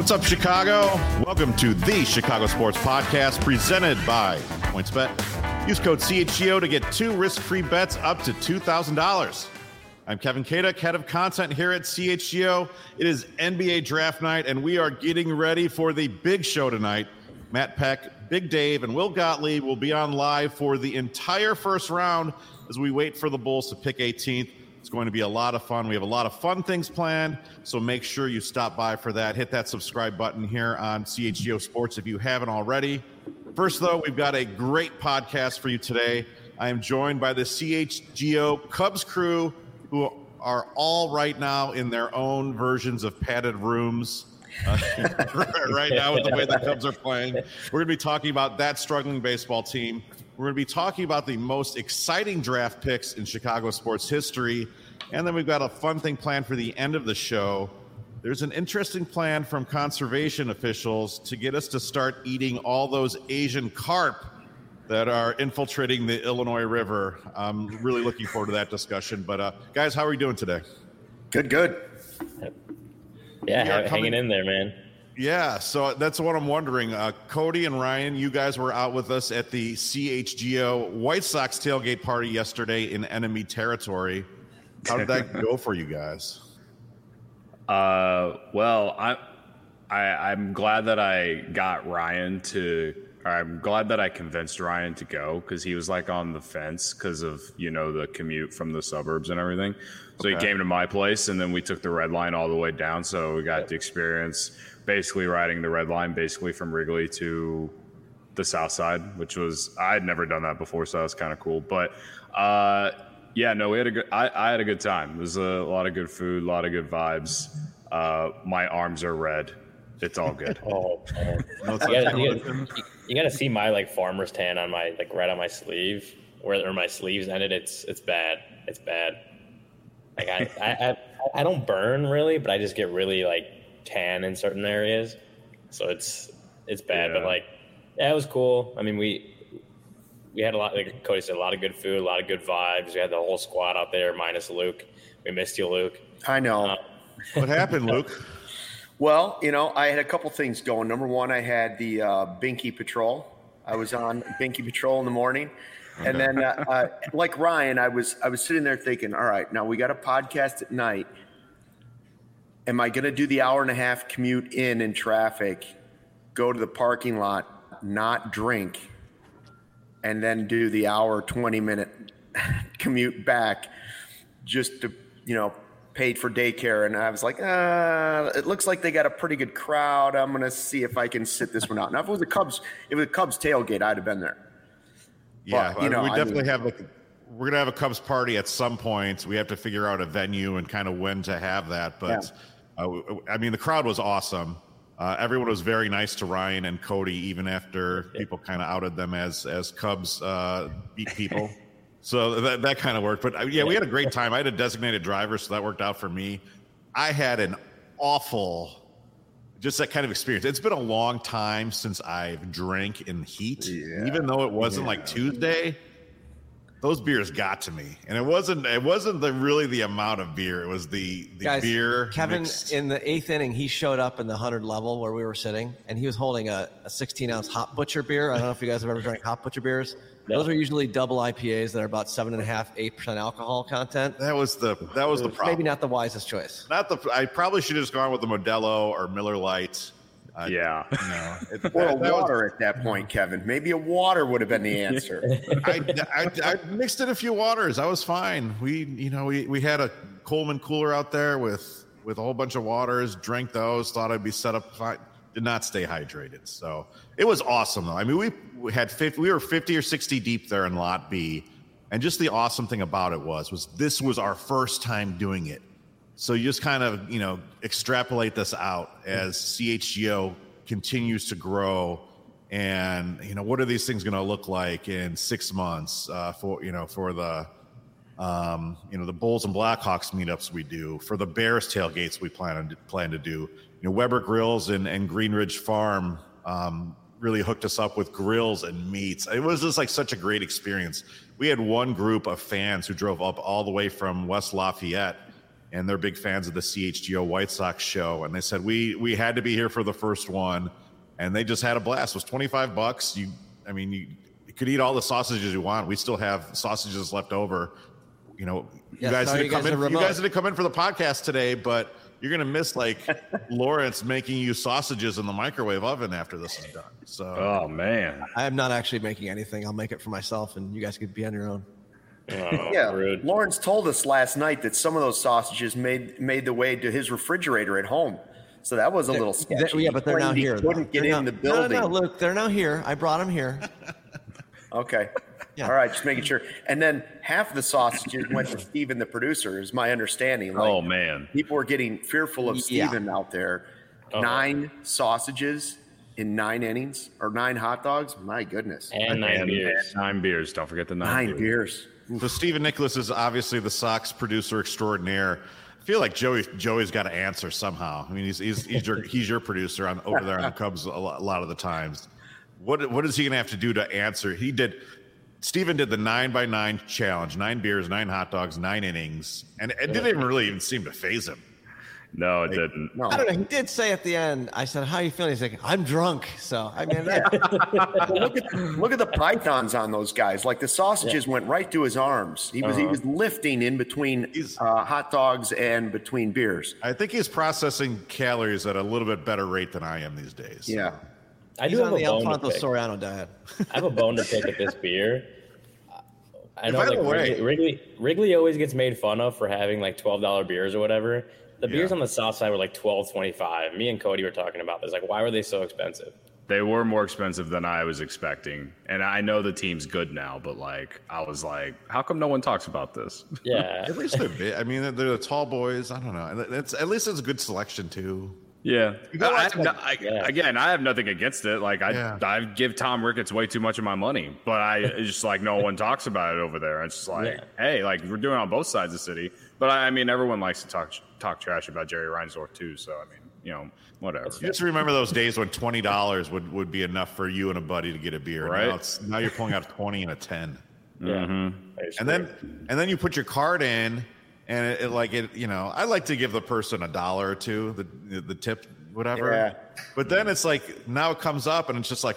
What's up, Chicago? Welcome to the Chicago Sports Podcast presented by PointsBet. Use code CHGO to get 2 risk-free bets up to $2,000. I'm Kevin Kaduk, head of content here at CHGO. It is NBA draft night, and we are getting ready for the big show tonight. Matt Peck, Big Dave, and Will Gottlieb will be on live for the entire first round as we wait for the Bulls to pick 18th. It's going to be a lot of fun. We have a lot of fun things planned, so make sure you stop by for that. Hit that subscribe button here on CHGO Sports if you haven't already. First, though, we've got a great podcast for you today. I am joined by the CHGO Cubs crew, who are all right now in their own versions of padded rooms. Right now with the way the Cubs are playing. We're going to be talking about that struggling baseball team. We're going to be talking about the most exciting draft picks in Chicago sports history. And then we've got a fun thing planned for the end of the show. There's an interesting plan from conservation officials to get us to start eating all those Asian carp that are infiltrating the Illinois River. I'm really looking forward to that discussion. But guys, how are we doing today? Good. Yeah, hanging in there, man. Yeah, so that's what I'm wondering. Cody and Ryan, you guys were out with us at the CHGO White Sox tailgate party yesterday in enemy territory. How did that go for you guys? Well, I'm glad that I'm glad that I convinced Ryan to go, because he was like on the fence because of, the commute from the suburbs and everything. So He came to my place, and then we took the red line all the way down. So we got to experience basically riding the red line basically from Wrigley to the south side, which was, I had never done that before, so that was kind of cool. But I had a good time. It was a lot of good food, a lot of good vibes. My arms are red. It's all good. You got to see my farmer's tan on my right on my sleeve, where my sleeves ended. It's bad. It's bad. I don't burn really, but I just get really tan in certain areas, so it's bad. Yeah. But it was cool. I mean, we had a lot, like Cody said, a lot of good food, a lot of good vibes. We had the whole squad out there minus Luke. We missed you, Luke. I know. What happened, Luke? Well, I had a couple things going. Number one, I had the Binky Patrol. I was on Binky Patrol in the morning. Okay. And then, like Ryan, I was sitting there thinking, all right, now we got a podcast at night. Am I going to do the hour and a half commute in traffic, go to the parking lot, not drink, and then do the hour, 20-minute commute back just to, paid for daycare? And I was like, it looks like they got a pretty good crowd. I'm going to see if I can sit this one out. Now, if it was a Cubs tailgate, I'd have been there. Yeah, but, we definitely have we're going to have a Cubs party at some point. We have to figure out a venue and kind of when to have that. But, the crowd was awesome. Everyone was very nice to Ryan and Cody, even after people kind of outed them as Cubs beat people. So that kind of worked. But, we had a great time. I had a designated driver, so that worked out for me. I had an awful just that kind of experience. It's been a long time since I've drank in heat. Yeah. Even though it wasn't Tuesday, those beers got to me. And it wasn't really the amount of beer. It was the Guys, beer. Kevin, mixed. in the 8th inning, he showed up in the 100 level where we were sitting, and he was holding a 16-ounce Hop Butcher beer. I don't know if you guys have ever drank Hop Butcher beers. Those are usually double IPAs that are about 7.5-8% alcohol content. That was the problem. Maybe not the wisest choice. I probably should have just gone with the Modelo or Miller Lite. Or a water at that point, Kevin. Maybe a water would have been the answer. I mixed in a few waters. I was fine. We had a Coleman cooler out there with a whole bunch of waters. Drank those. Thought I'd be set up fine. Did not stay hydrated. So it was awesome though. I mean, we were 50 or 60 deep there in Lot B, and just the awesome thing about it was this was our first time doing it. So you just kind of, extrapolate this out as CHGO continues to grow, and, what are these things going to look like in 6 months for the, the Bulls and Blackhawks meetups we do, for the Bears tailgates we plan to do. Weber Grills and Greenridge Farm really hooked us up with grills and meats. It was just such a great experience. We had one group of fans who drove up all the way from West Lafayette and they're big fans of the CHGO White Sox show. And they said, we had to be here for the first one. And they just had a blast. It was $25. You could eat all the sausages you want. We still have sausages left over. You know, you guys didn't come in for the podcast today, but you're going to miss like Lawrence making you sausages in the microwave oven after this is done. So, oh man, I am not actually making anything. I'll make it for myself, and you guys could be on your own. Oh, yeah, rude. Lawrence told us last night that some of those sausages made the way to his refrigerator at home. So that was a little sketchy. Yeah, but they're now here. Couldn't get in the building. No, look, they're now here. I brought them here. Okay. Yeah. All right, just making sure. And then half the sausages went to Steven, the producer, is my understanding. Like, oh, man. People were getting fearful of Steven out there. 9 sausages in 9 innings or 9 hot dogs. My goodness. And 9 beers. 9 beers. Don't forget the 9 beers. So Stephen Nicholas is obviously the Sox producer extraordinaire. I feel like Joey's got to answer somehow. I mean, he's your producer over there on the Cubs a lot of the times. What is he going to have to do to answer? Steven did the 9x9 challenge, 9 beers, 9 hot dogs, 9 innings, and it didn't really even seem to faze him. No, it didn't. No. I don't know. He did say at the end, I said, how are you feeling? He's like, I'm drunk. So, I mean, look at the pythons on those guys. Like the sausages went right to his arms. He was lifting in between hot dogs and between beers. I think he's processing calories at a little bit better rate than I am these days. Yeah. I do he's have on the a bone to Alfonso pick. Soriano diet. I have a bone to pick at this beer. I know By the like way- Wrigley always gets made fun of for having like $12 beers or whatever. The beers on the south side were like $12.25. Me and Cody were talking about this. Like, why were they so expensive? They were more expensive than I was expecting. And I know the team's good now, but like I was like, how come no one talks about this? Yeah. At least they're big. I mean, they're the tall boys. I don't know. At least it's a good selection too. Yeah. Yeah. Again, I have nothing against it. Like I give Tom Ricketts way too much of my money, but it's just like no one talks about it over there. It's just like, hey, like we're doing it on both sides of the city. But I mean, everyone likes to talk trash about Jerry Reinsdorf too. So I mean, you know, whatever. You just remember those days when $20 would be enough for you and a buddy to get a beer. Right. Now you're pulling out 20 and a 10. Yeah. And then you put your card in, and I like to give the person $1 or $2, the tip, whatever. Yeah. But then it's like now it comes up and it's just like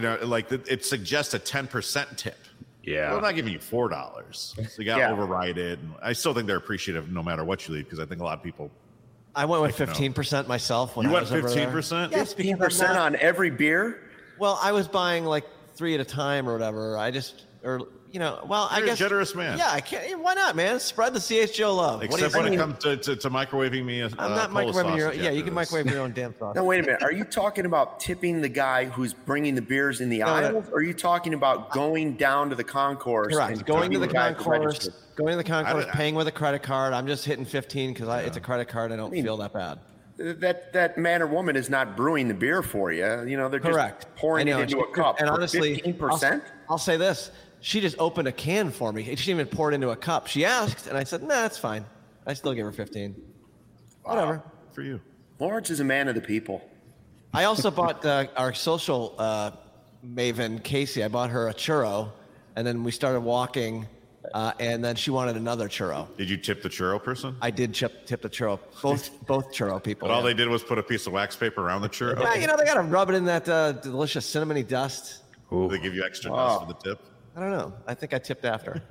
it suggests a 10% tip. Yeah. Well, I'm not giving you $4, so you got to override it. And I still think they're appreciative no matter what you leave because I think a lot of people. I went with 15% myself when You I went was over there. 15%? Yes, because I'm 15% not- on every beer. Well, I was buying like 3 at a time or whatever. I guess. You're a generous man. Yeah, I can't. Why not, man? Spread the CHGO love. Except when it comes to microwaving me. I'm not microwaving your. Yeah, you can microwave your own damn sauce. No, wait a minute. Are you talking about tipping the guy who's bringing the beers in the aisles? Or are you talking about going down to the concourse? Correct. And Going to the tipping guy at the concourse. register? Going to the concourse. Paying with a credit card. I'm just hitting 15 because it's a credit card. I don't feel that bad. That man or woman is not brewing the beer for you. You know, they're Correct. just pouring it into a cup. And for honestly, 15%? I'll say this. She just opened a can for me. She didn't even pour it into a cup. She asked, and I said, nah, that's fine. I still give her 15. Whatever. For you. Lawrence is a man of the people. I also bought our social maven, Casey. I bought her a churro, and then we started walking, and then she wanted another churro. Did you tip the churro person? I did tip the churro. Both churro people. But all they did was put a piece of wax paper around the churro. Yeah, they got to rub it in that delicious cinnamony dust. They give you extra dust for the tip. I don't know. I think I tipped after.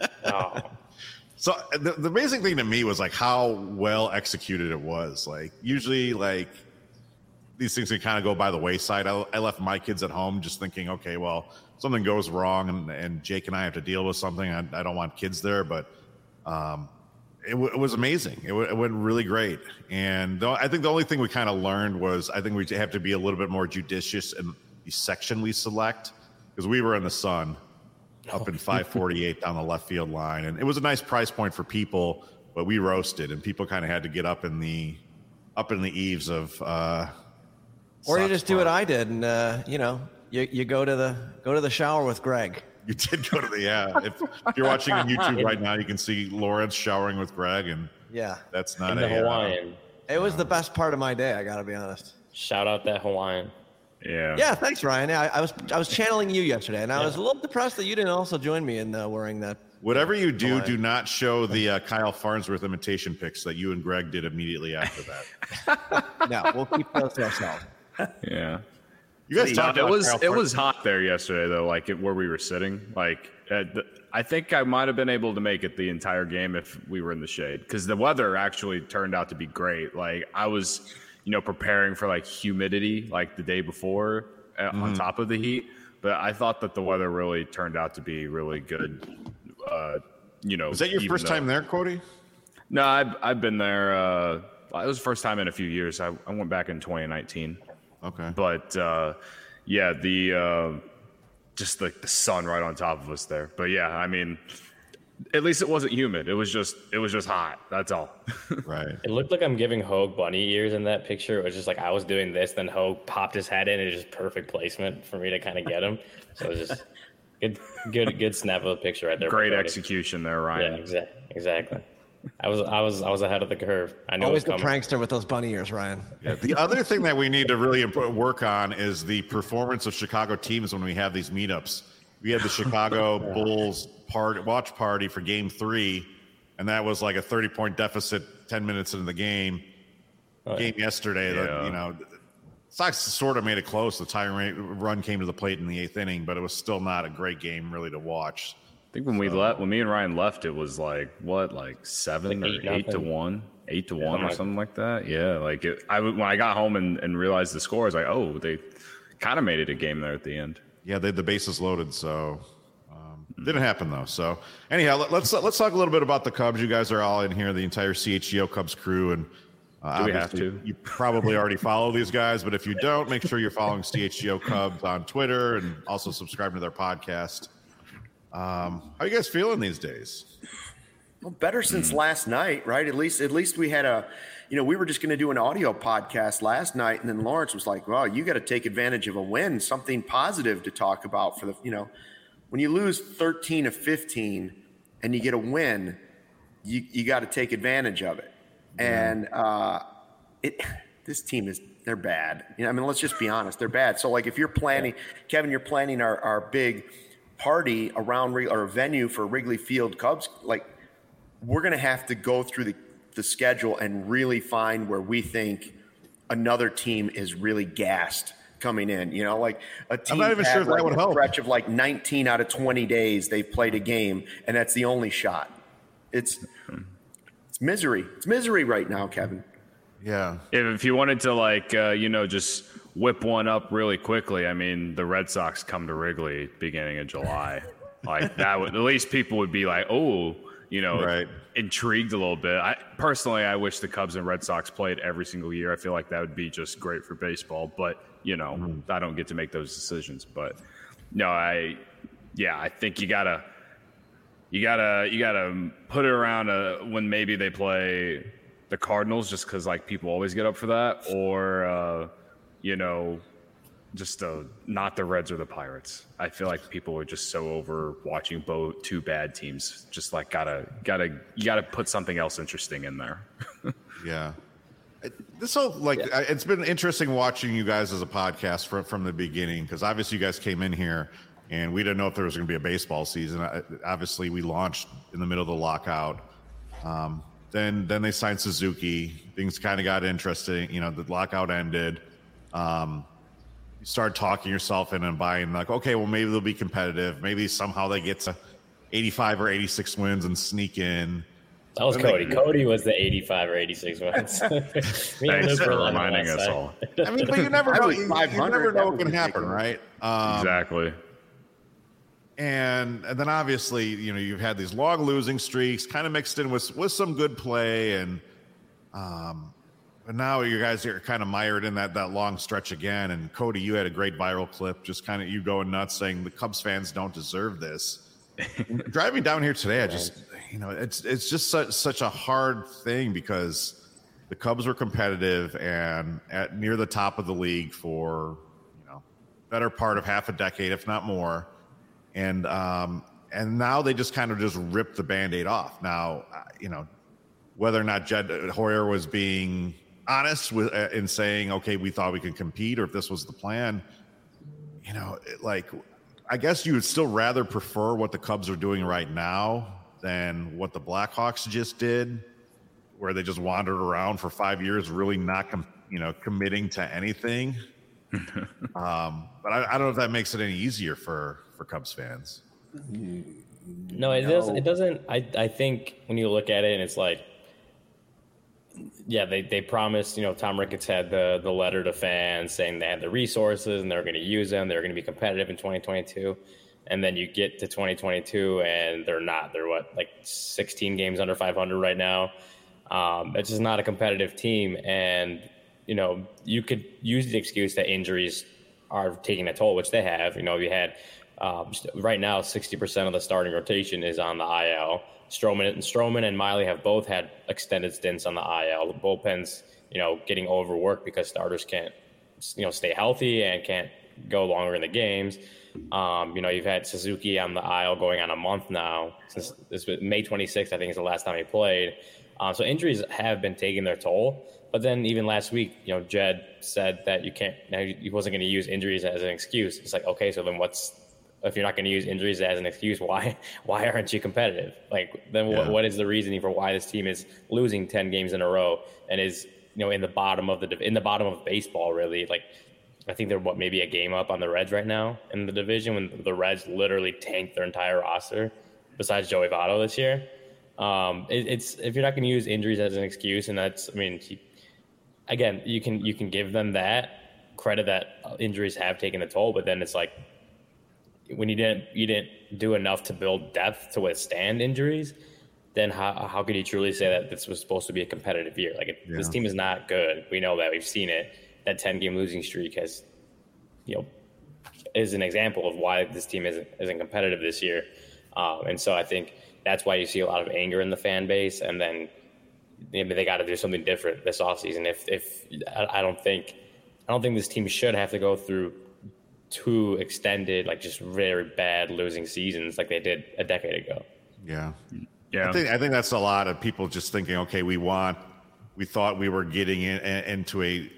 So the amazing thing to me was like how well executed it was. Like usually like these things can kind of go by the wayside. I left my kids at home just thinking, okay, well, something goes wrong and Jake and I have to deal with something. I don't want kids there, but it was amazing. It went really great. And I think the only thing we kind of learned was I think we have to be a little bit more judicious in the section we select because we were in the sun. Up in 548 down the left field line, and it was a nice price point for people, but we roasted, and people kind of had to get up in the eaves of. Or you just do what I did, and you go to the shower with Greg. You did go to the If you're watching on YouTube right now, you can see Lawrence showering with Greg, and that's not the Hawaiian. It was the best part of my day. I got to be honest. Shout out that Hawaiian. Yeah, thanks, Ryan. I was channeling you yesterday, and I was a little depressed that you didn't also join me in wearing that Whatever you do, do not show the Kyle Farnsworth imitation pics that you and Greg did immediately after that. No, we'll keep those to ourselves. Yeah. You guys talked It about was hot there yesterday though, like where we were sitting. Like I think I might have been able to make it the entire game if we were in the shade, because the weather actually turned out to be great. Like I was, preparing for like humidity like the day before on top of the heat, but I thought that the weather really turned out to be really good. Was that your first time there, Cody? No, I've been there. It was the first time in a few years. I went back in 2019. Okay. But yeah, just like the sun right on top of us there. But yeah, I mean, at least it wasn't humid. It was just hot. That's all. Right. It looked like I'm giving Hogue bunny ears in that picture. It was just like I was doing this, then Hogue popped his head in, and it was just perfect placement for me to kind of get him. So it was just good snap of a picture right there. Great execution there, Ryan. Yeah, exactly. I was ahead of the curve. I knew Always it was the coming. prankster with those bunny ears, Ryan. Yeah, the other thing that we need to really work on is the performance of Chicago teams when we have these meetups. We had the Chicago Bulls watch party for Game 3, and that was like a 30-point deficit 10 minutes into the game. Game yesterday, Sox sort of made it close. The tie run came to the plate in the 8th inning, but it was still not a great game really to watch. I think when me and Ryan left, it was like 7 or 8 to 1, 8 to 1 or something like that. Yeah, like when I got home and realized the score, I was like, oh, they kind of made it a game there at the end. Yeah, they had the bases loaded, so didn't happen though. So anyhow, let's talk a little bit about the Cubs. You guys are all in here, the entire CHGO Cubs crew, and do we have to? You probably already follow these guys, but if you don't, make sure you're following CHGO Cubs on Twitter and also subscribing to their podcast. How are you guys feeling these days? Well, better since last night, right? At least we had we were just going to do an audio podcast last night, and then Lawrence was like, "Well, you got to take advantage of a win, something positive to talk about for the, when you lose 13 of 15 and you get a win, you got to take advantage of it." And this team they're bad. Let's just be honest, they're bad. So like if you're planning, Kevin, you're planning our big party around or a venue for Wrigley Field Cubs, like we're going to have to go through the schedule and really find where we think another team is really gassed coming in. Like a team I'm not even sure if that would help. Stretch of like 19 out of 20 days they've played a game, and that's the only shot. It's misery. It's misery right now, Kevin. Yeah. If you wanted to just whip one up really quickly, the Red Sox come to Wrigley beginning of July. Like that would, at least people would be like, oh, right. Intrigued a little bit. I wish the Cubs and Red Sox played every single year. I feel like that would be just great for baseball, but I don't get to make those decisions. But no, I think you gotta put it around when maybe they play the Cardinals, just because like people always get up for that, or just not the Reds or the Pirates. I feel like people are just so over watching both two bad teams. Just like you gotta put something else interesting in there. Yeah. It's been interesting watching you guys as a podcast from the beginning, because obviously you guys came in here and we didn't know if there was going to be a baseball season. Obviously we launched in the middle of the lockout. Then they signed Suzuki. Things kind of got interesting. The lockout ended. You start talking yourself in and buying, like, okay, well, maybe they'll be competitive. Maybe somehow they get to 85 or 86 wins and sneak in. That was Cody. Cody was the 85 or 86 wins. Thanks for reminding us all. But you never know. You never know what can happen, right? Exactly. And then obviously, you've had these long losing streaks, kind of mixed in with some good play, and but now you guys are kind of mired in that long stretch again. And Cody, you had a great viral clip, just kind of you going nuts, saying the Cubs fans don't deserve this. Driving down here today, I just, it's just such a hard thing, because the Cubs were competitive and near the top of the league for better part of half a decade, if not more. And now they just kind of just ripped the Band-Aid off. Now, whether or not Jed Hoyer was being honest in saying, okay, we thought we could compete, or if this was the plan, I guess you would still rather prefer what the Cubs are doing right now than what the Blackhawks just did, where they just wandered around for 5 years, really not, committing to anything. But I don't know if that makes it any easier for Cubs fans. No, it doesn't. I think when you look at it, and it's like, yeah, they promised, Tom Ricketts had the letter to fans saying they had the resources and they're going to use them. They're going to be competitive in 2022. And then you get to 2022 and they're not. They're 16 games under 500 right now. It's just not a competitive team. And, you could use the excuse that injuries are taking a toll, which they have. You had right now 60% of the starting rotation is on the IL. Stroman and Miley have both had extended stints on the IL. The bullpen's, getting overworked because starters can't, stay healthy and can't go longer in the games. You've had Suzuki on the IL going on a month now. Since this was May 26th, I think is the last time he played. So injuries have been taking their toll. But then even last week, Jed said that he wasn't going to use injuries as an excuse. It's like, okay, so then if you're not going to use injuries as an excuse, why aren't you competitive? What is the reasoning for why this team is losing 10 games in a row and is in the bottom of baseball, really? I think they're maybe a game up on the Reds right now in the division, when the Reds literally tanked their entire roster besides Joey Votto this year. It's if you're not going to use injuries as an excuse, and again, you can give them that credit that injuries have taken a toll, but then it's like, when you didn't do enough to build depth to withstand injuries, then how could you truly say that this was supposed to be a competitive year? This team is not good. We know that. We've seen it. That 10-game losing streak is an example of why this team isn't competitive this year. And so I think that's why you see a lot of anger in the fan base. And then they got to do something different this offseason. I don't think this team should have to go through two extended, just very bad losing seasons like they did a decade ago. Yeah. I think that's a lot of people just thinking, okay, we thought we were getting into a,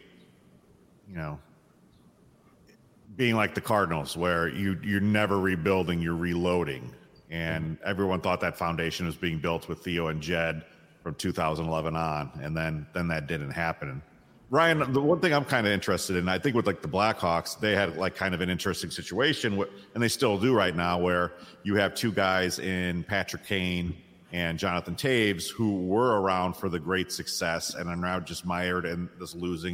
being like the Cardinals, where you're never rebuilding, you're reloading. And everyone thought that foundation was being built with Theo and Jed from 2011 on. And then that didn't happen. Ryan, the one thing I'm kind of interested in, I think with the Blackhawks, they had kind of an interesting situation, and they still do right now, where you have two guys in Patrick Kane and Jonathan Taves who were around for the great success and are now just mired in this losing.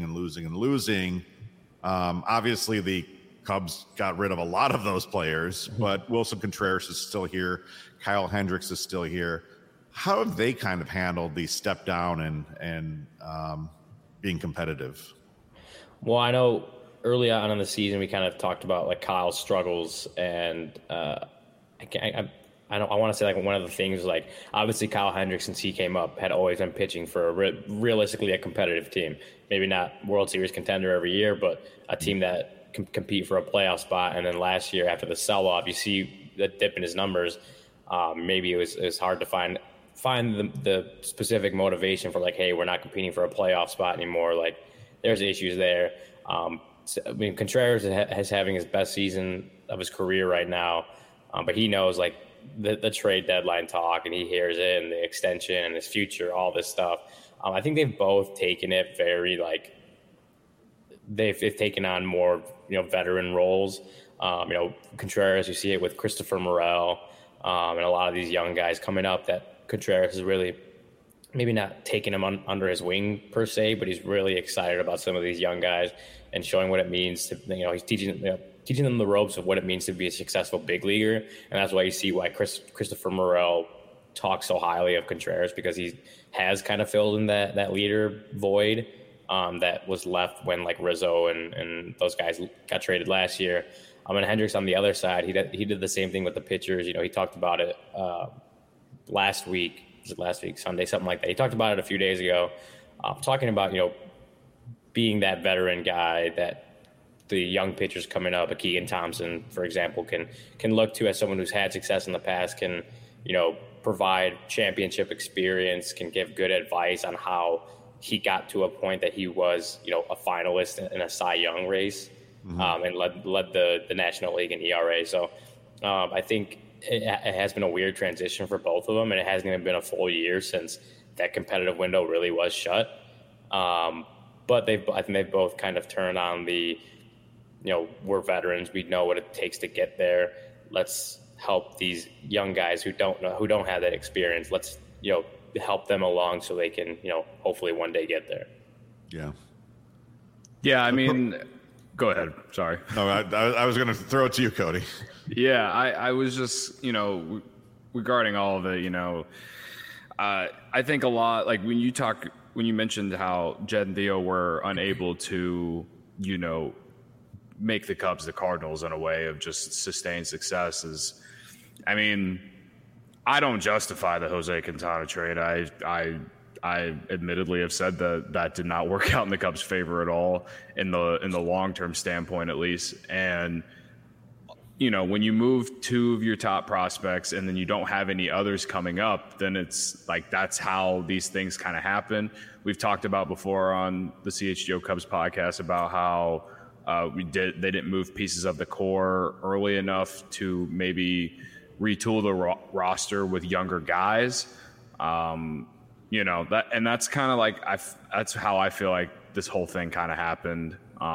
Obviously, the Cubs got rid of a lot of those players, but Wilson Contreras is still here. Kyle Hendricks is still here. How have they kind of handled the step down and being competitive? Well, I know early on in the season we kind of talked about Kyle's struggles, and I want to say one of the things, obviously Kyle Hendricks, since he came up, had always been pitching for realistically a competitive team. Maybe not World Series contender every year, but a team that can compete for a playoff spot. And then last year, after the sell-off, you see the dip in his numbers. Maybe it was hard to find the specific motivation for hey, we're not competing for a playoff spot anymore. There's issues there. Contreras is having his best season of his career right now, but he knows the trade deadline talk, and he hears it, and the extension and his future, all this stuff. I think they've both taken it very they've taken on more veteran roles. Contreras, you see it with Christopher Morel, and a lot of these young guys coming up that Contreras is really maybe not taking him under his wing per se, but he's really excited about some of these young guys and showing what it means to, he's teaching them the ropes of what it means to be a successful big leaguer. And that's why you see why Christopher Morel talks so highly of Contreras, because he has kind of filled in that leader void that was left when Rizzo and those guys got traded last year. And Hendricks on the other side, he did the same thing with the pitchers. He talked about it last week, Sunday, something like that. He talked about it a few days ago, talking about, being that veteran guy that the young pitchers coming up, a Keegan Thompson, for example, can look to as someone who's had success in the past, can, provide championship experience, can give good advice on how he got to a point that he was, a finalist in a Cy Young race, and led the National League in ERA. So I think it has been a weird transition for both of them, and it hasn't even been a full year since that competitive window really was shut. But I think they've both kind of turned on the, we're veterans. We know what it takes to get there. Let's help these young guys who don't have that experience. Let's, help them along so they can, hopefully one day get there. Yeah. Yeah. I mean, go ahead. Sorry. No, I was going to throw it to you, Cody. Yeah. I was just, regarding all of it, I think a lot, like when you mentioned how Jed and Theo were unable to, make the Cubs the Cardinals in a way of just sustained success I don't justify the Jose Quintana trade. I admittedly have said that did not work out in the Cubs' favor at all in the long-term standpoint, at least. And, when you move two of your top prospects and then you don't have any others coming up, then it's like that's how these things kind of happen. We've talked about before on the CHGO Cubs podcast about how they didn't move pieces of the core early enough to maybe retool the roster with younger guys. That, and that's kind of like that's how I feel like this whole thing kind of happened.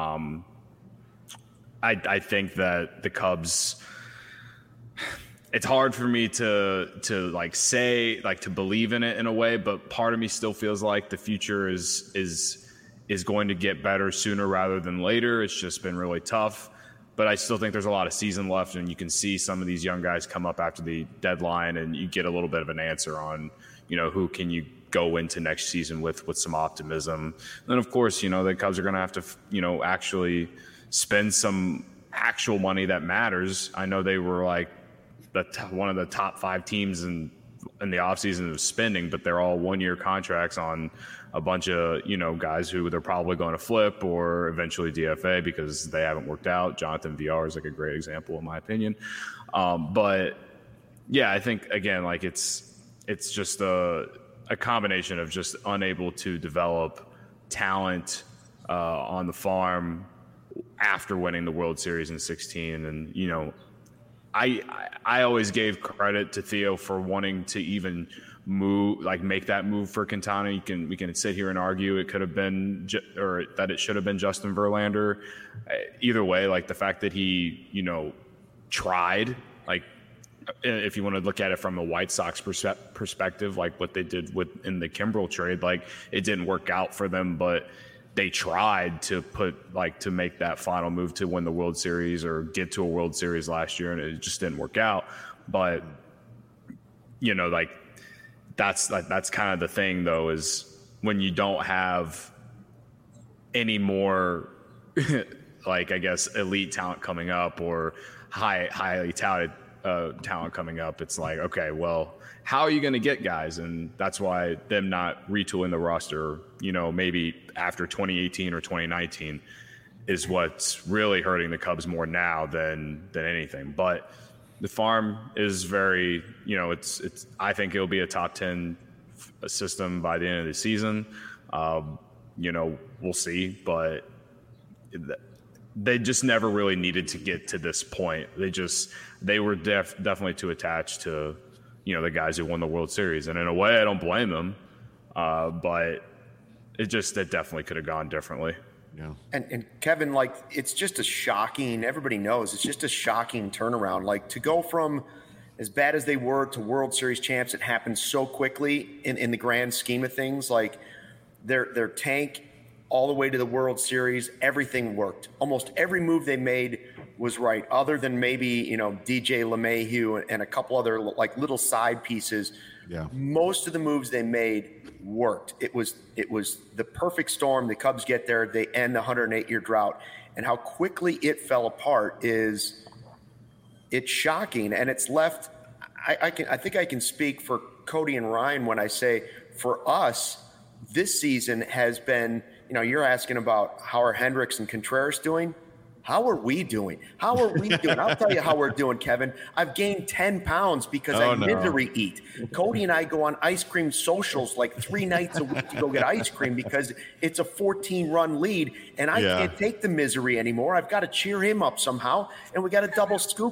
I think that the Cubs, it's hard for me to like say, like to believe in it in a way, but part of me still feels like the future is going to get better sooner rather than later. It's just been really tough, but I still think there's a lot of season left, and you can see some of these young guys come up after the deadline and you get a little bit of an answer on, who can you go into next season with some optimism. And then of course, the Cubs are going to have to, actually spend some actual money that matters. I know they were like one of the top 5 teams in the offseason of spending, but they're all 1-year contracts on a bunch of, guys who they're probably going to flip or eventually DFA because they haven't worked out. Jonathan VR is like a great example in my opinion. But yeah, I think again, like it's just a combination of just unable to develop talent on the farm after winning the World Series in 2016. And, I always gave credit to Theo for wanting to even make that move for Quintana. We can sit here and argue it could have been, or that it should have been Justin Verlander. Either way, like the fact that he, tried, like if you want to look at it from a White Sox perspective, like what they did in the Kimbrel trade, like it didn't work out for them, but they tried to to make that final move to win the World Series or get to a World Series last year, and it just didn't work out. But that's kind of the thing though, is when you don't have any more I guess elite talent coming up or highly touted talent coming up, it's like, okay, well, how are you going to get guys? And that's why them not retooling the roster, maybe after 2018 or 2019 is what's really hurting the Cubs more now than anything. But the farm is very, it's I think it'll be a top 10 system by the end of the season. We'll see, but they just never really needed to get to this point. They were definitely too attached to, the guys who won the World Series. And in a way, I don't blame them. But it definitely could have gone differently. Yeah. And Kevin, it's just a shocking, everybody knows, it's just a shocking turnaround. Like to go from as bad as they were to World Series champs, it happened so quickly in the grand scheme of things. Like their tank all the way to the World Series, everything worked. Almost every move they made was right, other than maybe, DJ LeMahieu and a couple other little side pieces. Yeah. Most of the moves they made worked. It was the perfect storm. The Cubs get there, they end the 108-year drought, and how quickly it fell apart it's shocking. And it's left. I think I can speak for Cody and Ryan when I say, for us, this season has been. You're asking about how are Hendricks and Contreras doing? How are we doing? I'll tell you how we're doing, Kevin. I've gained 10 pounds because I misery eat. Cody and I go on ice cream socials 3 nights a week to go get ice cream because it's a 14-run lead, and I can't take the misery anymore. I've got to cheer him up somehow, and we got to double scoop it.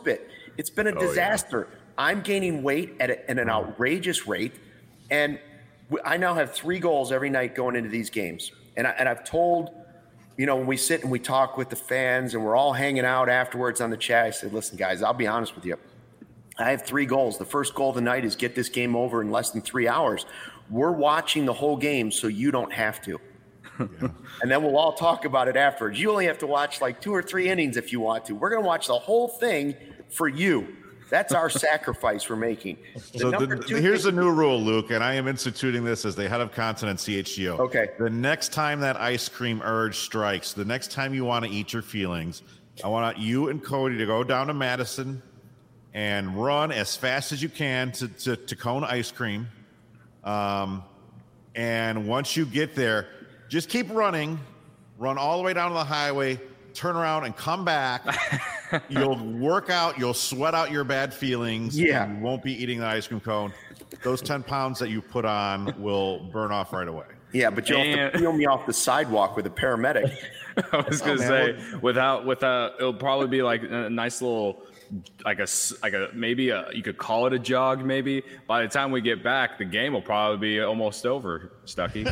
It's been a disaster. Yeah. I'm gaining weight at an outrageous rate, and I now have 3 goals every night going into these games. And I've told, when we sit and we talk with the fans and we're all hanging out afterwards on the chat, I said, listen, guys, I'll be honest with you. I have 3 goals. The first goal of the night is get this game over in less than 3 hours. We're watching the whole game so you don't have to. Yeah. And then we'll all talk about it afterwards. You only have to watch like 2 or 3 innings if you want to. We're going to watch the whole thing for you. That's our sacrifice we're making. Here's a new rule, Luke, and I am instituting this as the head of content at CHGO. Okay. The next time that ice cream urge strikes, the next time you want to eat your feelings, I want you and Cody to go down to Madison and run as fast as you can to Cone Ice Cream. And once you get there, just keep running, run all the way down to the highway, turn around and come back. You'll work out, you'll sweat out your bad feelings. Yeah. You won't be eating the ice cream cone. Those 10 pounds that you put on will burn off right away. Yeah, but you'll have to peel me off the sidewalk with a paramedic. I was going to say, without, it'll probably be like a nice little, you could call it a jog maybe. By the time we get back, the game will probably be almost over, Stuckey.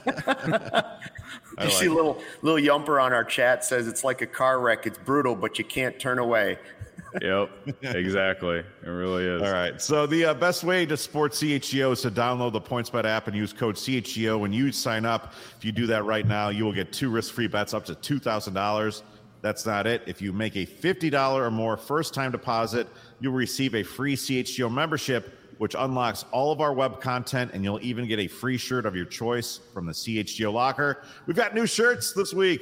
You see little Yumper on our chat says it's like a car wreck. It's brutal, but you can't turn away. Yep, exactly. It really is. All right. So the best way to support CHGO is to download the PointsBet app and use code CHGO. When you sign up, if you do that right now, you will get 2 risk-free bets up to $2,000. That's not it. If you make a $50 or more first-time deposit, you'll receive a free CHGO membership, which unlocks all of our web content, and you'll even get a free shirt of your choice from the CHGO locker. We've got new shirts this week.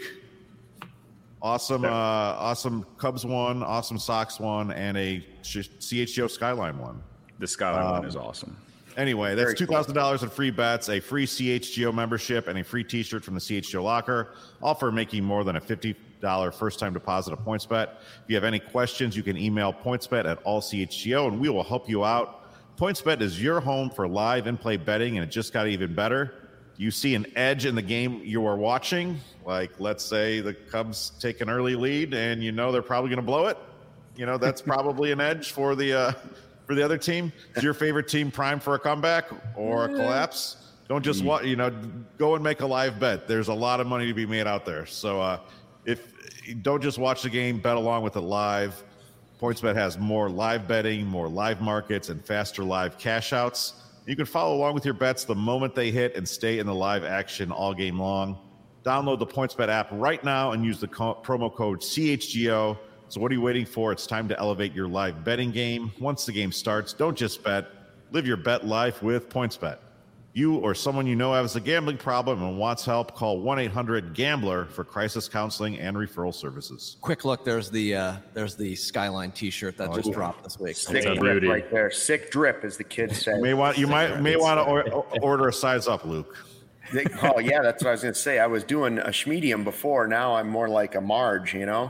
Awesome, awesome Cubs one, awesome Sox one, and a CHGO Skyline one. The Skyline one is awesome. Anyway, that's $2,000 in free bets, a free CHGO membership, and a free T-shirt from the CHGO locker, all for making more than a $50 first-time deposit at PointsBet. If you have any questions, you can email pointsbet@allchgo, and we will help you out. PointsBet is your home for live in-play betting, and it just got even better. You see an edge in the game you are watching, like let's say the Cubs take an early lead, and they're probably going to blow it. That's probably an edge for the other team. Is your favorite team primed for a comeback or a collapse? Don't just go and make a live bet. There's a lot of money to be made out there. So if you don't just watch the game, bet along with it live. PointsBet has more live betting, more live markets, and faster live cash outs. You can follow along with your bets the moment they hit and stay in the live action all game long. Download the PointsBet app right now and use the promo code CHGO. So what are you waiting for? It's time to elevate your live betting game. Once the game starts, don't just bet. Live your bet life with PointsBet. You or someone you know has a gambling problem and wants help, call 1-800-GAMBLER for crisis counseling and referral services. Quick look, there's the Skyline T-shirt that just dropped this week. Sick drip right there. Sick drip, as the kids say. You may want to order a size up, Luke. Oh yeah, that's what I was going to say. I was doing a schmedium before. Now I'm more like a Marge, I'm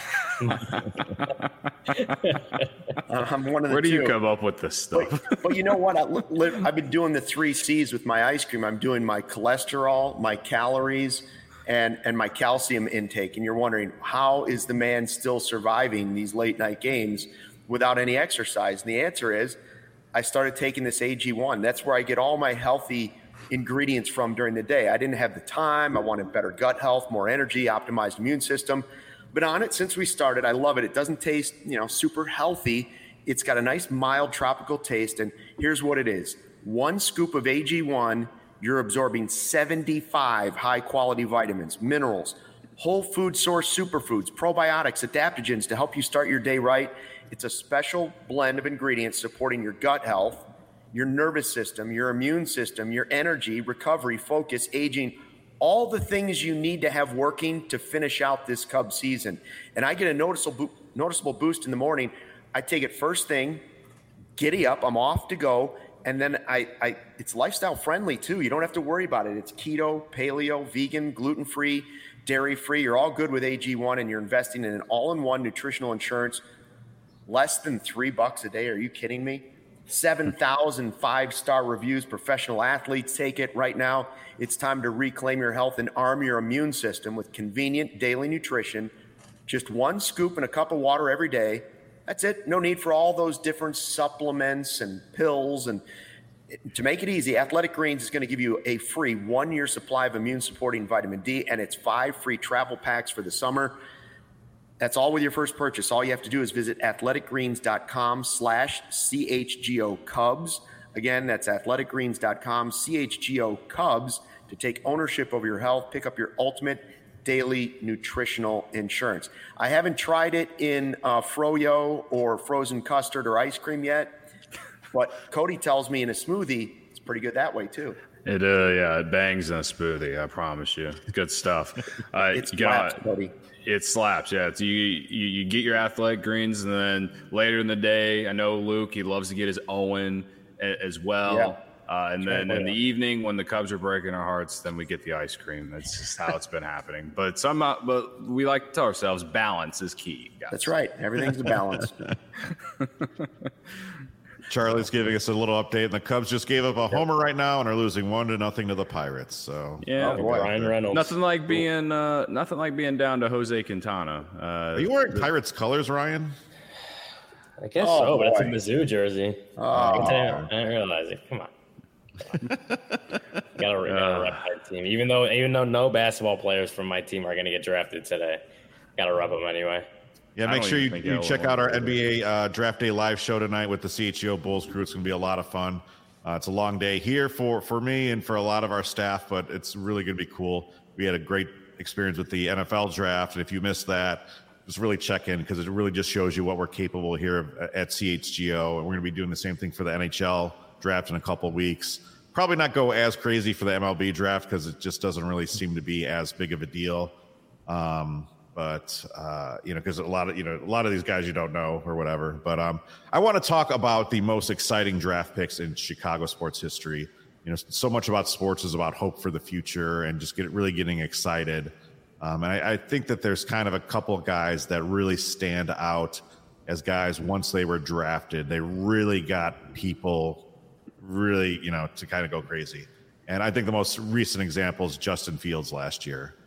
one of the Where do two. you come up with this stuff? But you know what? I've been doing the 3 C's with my ice cream. I'm doing my cholesterol, my calories, and my calcium intake. And you're wondering, how is the man still surviving these late night games without any exercise? And the answer is, I started taking this AG1. That's where I get all my healthy ingredients from during the day. I didn't have the time. I wanted better gut health, more energy, optimized immune system. Been on it since we started. I love it. It doesn't taste, super healthy. It's got a nice mild tropical taste. And here's what it is. 1 scoop of AG1, you're absorbing 75 high quality vitamins, minerals, whole food source superfoods, probiotics, adaptogens to help you start your day right. It's a special blend of ingredients supporting your gut health, your nervous system, your immune system, your energy, recovery, focus, aging, all the things you need to have working to finish out this Cubs season. And I get a noticeable boost in the morning. I take it first thing, giddy up, I'm off to go. And then it's lifestyle friendly too. You don't have to worry about it. It's keto, paleo, vegan, gluten-free, dairy-free. You're all good with AG1, and you're investing in an all-in-one nutritional insurance. Less than $3 a day. Are you kidding me? 7,000 5-star reviews. Professional athletes take it right now. It's time to reclaim your health and arm your immune system with convenient daily nutrition. Just 1 scoop in a cup of water every day. That's it. No need for all those different supplements and pills. And to make it easy, Athletic Greens is going to give you a free 1-year supply of immune-supporting vitamin D, and it's 5 free travel packs for the summer. That's all with your first purchase. All you have to do is visit athleticgreens.com/CHGO Cubs. Again, that's athleticgreens.com/CHGO Cubs to take ownership over your health. Pick up your ultimate daily nutritional insurance. I haven't tried it in froyo or frozen custard or ice cream yet, but Cody tells me in a smoothie, it's pretty good that way too. It bangs in a smoothie. I promise you, good stuff. It slaps, Cody. It slaps, yeah. It's, you get your Athletic Greens, and then later in the day, I know Luke, he loves to get his Owen as well. Yeah. And then in the evening, when the Cubs are breaking our hearts, then we get the ice cream. That's just how it's been happening. But we like to tell ourselves balance is key, guys. That's right. Everything's a balance. Charlie's giving us a little update, and the Cubs just gave up a homer right now and are losing 1-0 to the Pirates. So yeah, Ryan Reynolds. Nothing like being down to Jose Quintana. Are you wearing Pirates colors, Ryan? I guess so, but it's a Mizzou jersey. I didn't realize it. Come on. Gotta rep my team, even though no basketball players from my team are going to get drafted today. Gotta rep them anyway. Yeah, make sure you check out our NBA Draft Day live show tonight with the CHGO Bulls crew. It's going to be a lot of fun. It's a long day here for me and for a lot of our staff, but it's really going to be cool. We had a great experience with the NFL draft, and if you missed that, just really check in because it really just shows you what we're capable here at CHGO, and we're going to be doing the same thing for the NHL draft in a couple of weeks. Probably not go as crazy for the MLB draft because it just doesn't really seem to be as big of a deal. But because a lot of these guys you don't know or whatever. But I want to talk about the most exciting draft picks in Chicago sports history. So much about sports is about hope for the future and just really getting excited. And I think that there's kind of a couple of guys that really stand out as guys once they were drafted. They really got people really, to kind of go crazy. And I think the most recent example is Justin Fields last year.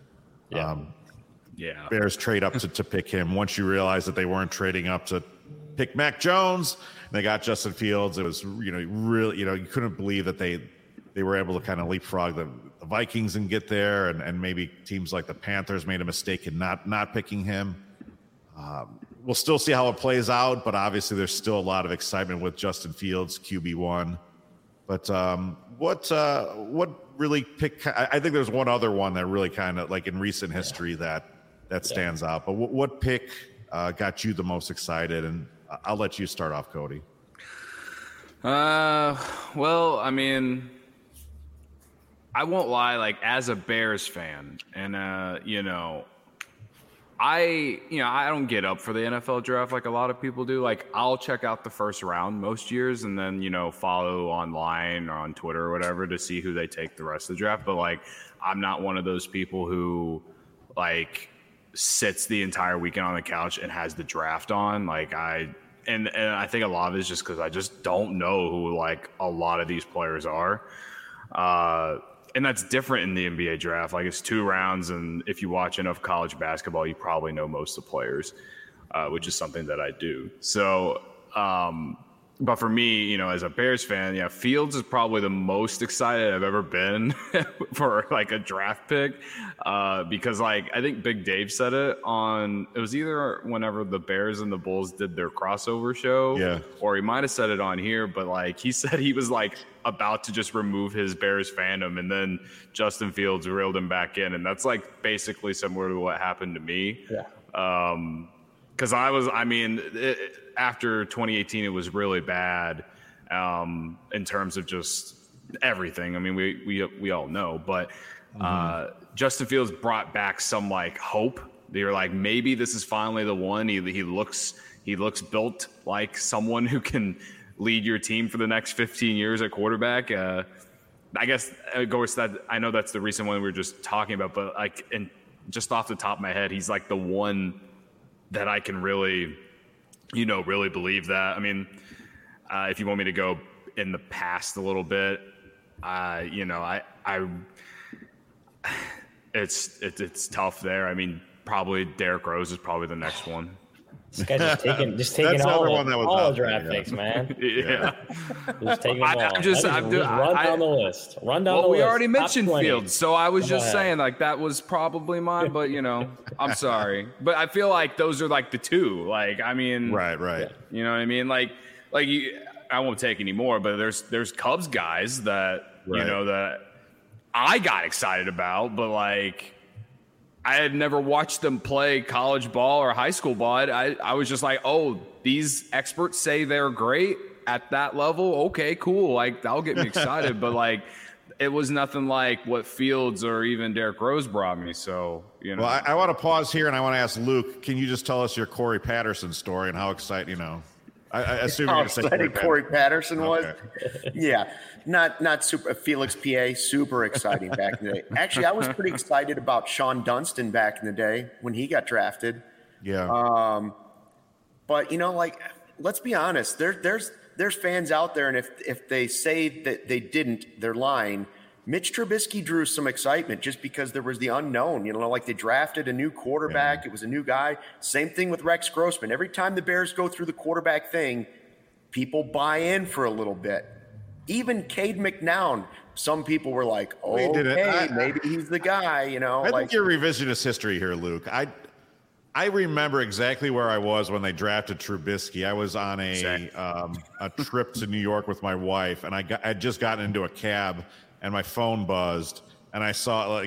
Bears trade up to pick him. Once you realize that they weren't trading up to pick Mac Jones, and they got Justin Fields. It was, really, you couldn't believe that they were able to kind of leapfrog the Vikings and get there. And maybe teams like the Panthers made a mistake in not picking him. We'll still see how it plays out, but obviously there's still a lot of excitement with Justin Fields, QB1. But what really picked? I think there's one other one that really kind of like in recent history that stands out. But what pick got you the most excited? And I'll let you start off, Cody. Well, I mean, I won't lie. Like as a Bears fan, and I don't get up for the NFL draft like a lot of people do. Like I'll check out the first round most years and then, follow online or on Twitter or whatever to see who they take the rest of the draft. But like, I'm not one of those people who like sits the entire weekend on the couch and has the draft on. Like and I think a lot of it is just because I just don't know who like a lot of these players are. And that's different in the NBA draft. Like it's 2 rounds, and if you watch enough college basketball, you probably know most of the players, which is something that I do. So, but for me, as a Bears fan, Fields is probably the most excited I've ever been for like a draft pick, because like I think Big Dave said it was either whenever the Bears and the Bulls did their crossover show, or he might have said it on here, but like he said he was like about to just remove his Bears fandom, and then Justin Fields reeled him back in, and that's like basically similar to what happened to me. Because after 2018, it was really bad in terms of just everything. I mean, we all know, but Justin Fields brought back some like hope. They were like, maybe this is finally the one. He looks built like someone who can lead your team for the next 15 years at quarterback. I guess, of course, that I know that's the recent one we were just talking about, but like, and just off the top of my head, he's like the one that I can really believe that. I mean, if you want me to go in the past a little bit, it's tough there. I mean, probably Derrick Rose is probably the next one. This guy's just taking all draft picks, man. Yeah. Just taking them all. Just run down the list. Run down the list. We already mentioned Fields, so I was just saying like that was probably mine, but I'm sorry. But I feel like those are like the two. Like, I mean, right. You know what I mean? Like I won't take any more, but there's Cubs guys that that I got excited about, but like I had never watched them play college ball or high school ball. I was just like, oh, these experts say they're great at that level. Okay, cool. Like, that'll get me excited. But, like, it was nothing like what Fields or even Derrick Rose brought me. So, Well, I want to pause here, and I want to ask Luke, can you just tell us your Corey Patterson story and how exciting, I assume you're excited Corey Patterson was. Yeah, not super. Felix PA, super exciting back in the day. Actually, I was pretty excited about Sean Dunston back in the day when he got drafted. Yeah. But like, let's be honest. There's fans out there, and if they say that they didn't, they're lying. Mitch Trubisky drew some excitement just because there was the unknown. Like they drafted a new quarterback. Yeah. It was a new guy. Same thing with Rex Grossman. Every time the Bears go through the quarterback thing, people buy in for a little bit. Even Cade McNown, some people were like, oh, okay, maybe he's the guy, I think you're revisionist history here, Luke. I remember exactly where I was when they drafted Trubisky. I was on a trip to New York with my wife, and I'd just gotten into a cab, and my phone buzzed, and I saw,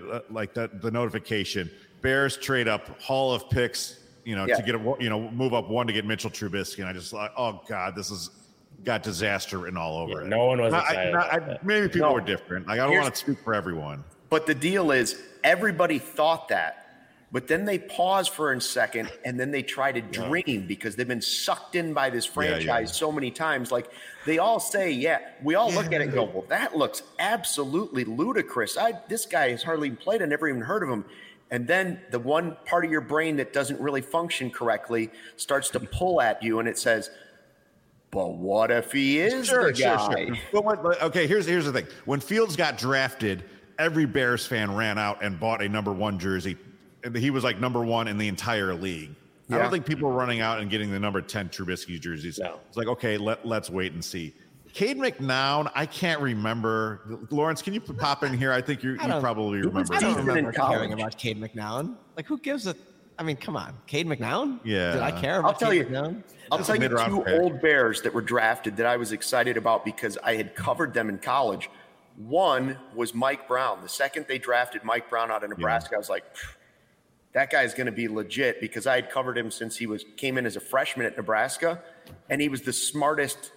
the notification, Bears trade up Hall of Picks, to get move up one to get Mitchell Trubisky, and I just thought, oh God, this has got disaster written all over it. No one was excited. Maybe people were different. Like, I don't want to speak for everyone. But the deal is, everybody thought that. But then they pause for a second, and then they try to dream because they've been sucked in by this franchise so many times. Like, they all say, we all look at it and go, well, that looks absolutely ludicrous. This guy has hardly even played. I never even heard of him. And then the one part of your brain that doesn't really function correctly starts to pull at you, and it says, but what if he is the guy? Sure. But okay, here's the thing. When Fields got drafted, every Bears fan ran out and bought a number 1 jersey. He was like number 1 in the entire league. Yeah. I don't think people were running out and getting the number 10 Trubisky jerseys. No. It's like, okay, let's wait and see. Cade McNown, I can't remember. Lawrence, can you pop in here? I think you probably remember. I don't remember caring about Cade McNown. Like, who gives a? I mean, come on, Cade McNown. Yeah, did I care about Cade McNown? I'll tell you 2 old Bears that were drafted that I was excited about because I had covered them in college. One was Mike Brown. The second they drafted Mike Brown out of Nebraska, I was like, that guy's going to be legit because I had covered him since he came in as a freshman at Nebraska, and he was the smartest.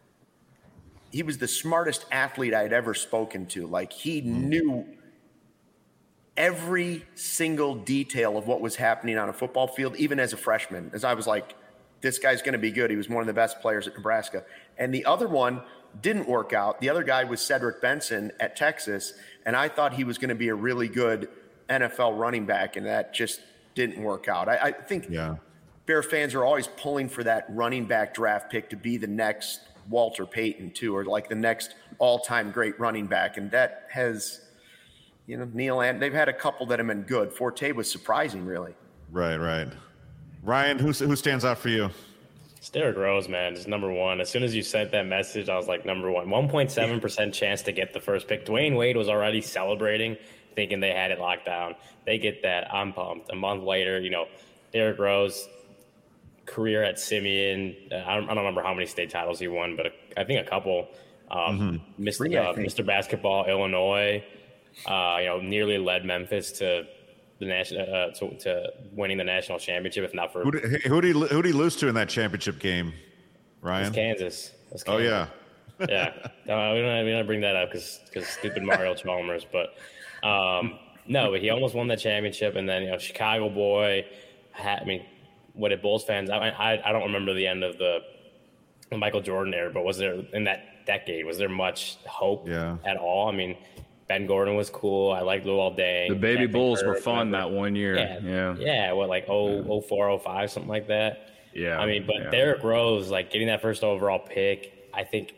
He was the smartest athlete I had ever spoken to. Like, he knew every single detail of what was happening on a football field, even as a freshman. As I was like, this guy's going to be good. He was one of the best players at Nebraska. And the other one didn't work out. The other guy was Cedric Benson at Texas, and I thought he was going to be a really good NFL running back, and that just didn't work out. I think Bear fans are always pulling for that running back draft pick to be the next Walter Payton too, or like the next all-time great running back. And that has, Neil, and they've had a couple that have been good. Forte was surprising, really. Right. Ryan, who stands out for you? It's Derrick Rose, man. It's number 1. As soon as you sent that message, I was like, number 1. 1.7% chance to get the first pick. Dwayne Wade was already celebrating, thinking they had it locked down. They get that. I'm pumped. A month later, Derrick Rose, career at Simeon. I don't remember how many state titles he won, but I think a couple. Mr. Basketball, Illinois. Nearly led Memphis to the national to winning the national championship. If not for who'd he lose to in that championship game, Ryan? It's Kansas. Oh yeah. Yeah. No, we don't bring that up because stupid Mario Chalmers, but. No, but he almost won that championship, and then Chicago boy. What did Bulls fans? I don't remember the end of the Michael Jordan era, but was there in that decade? Was there much hope at all? I mean, Ben Gordon was cool. I liked Luol Deng. The baby Bulls were fun that one year. Yeah. What, like 04, 05, something like that. Yeah. I mean, but Derrick Rose, like getting that first overall pick, I think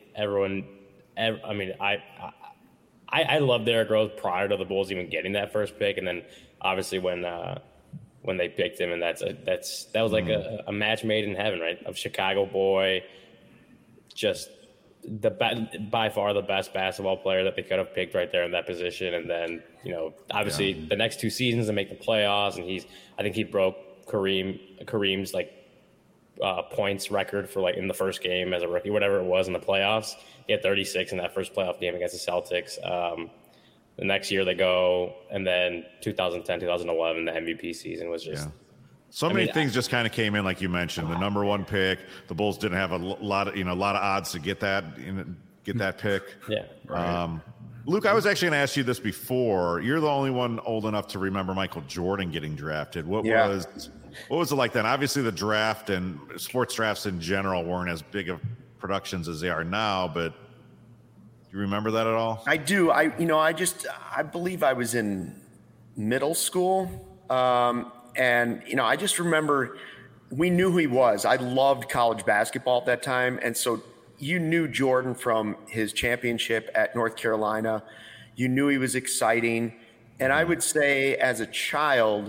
I loved Derrick Rose prior to the Bulls even getting that first pick, and then obviously when when they picked him, and that was like a match made in heaven, right? Of Chicago boy, just by far the best basketball player that they could have picked right there in that position. And then, obviously the next 2 seasons to make the playoffs, and I think he broke Kareem's like points record for like in the first game as a rookie, whatever it was in the playoffs. He had 36 in that first playoff game against the Celtics. The next year they go, and then 2010, 2011, the MVP season was just so many things just kind of came in, like you mentioned. The number 1 pick, the Bulls didn't have a lot of odds to get that pick. Yeah. Right. Luke, I was actually going to ask you this before. You're the only one old enough to remember Michael Jordan getting drafted. What was it like then? Obviously, the draft and sports drafts in general weren't as big of productions as they are now, but do you remember that at all? I do. I believe I was in middle school. And, I just remember we knew who he was. I loved college basketball at that time. And so you knew Jordan from his championship at North Carolina. You knew he was exciting. And I would say as a child,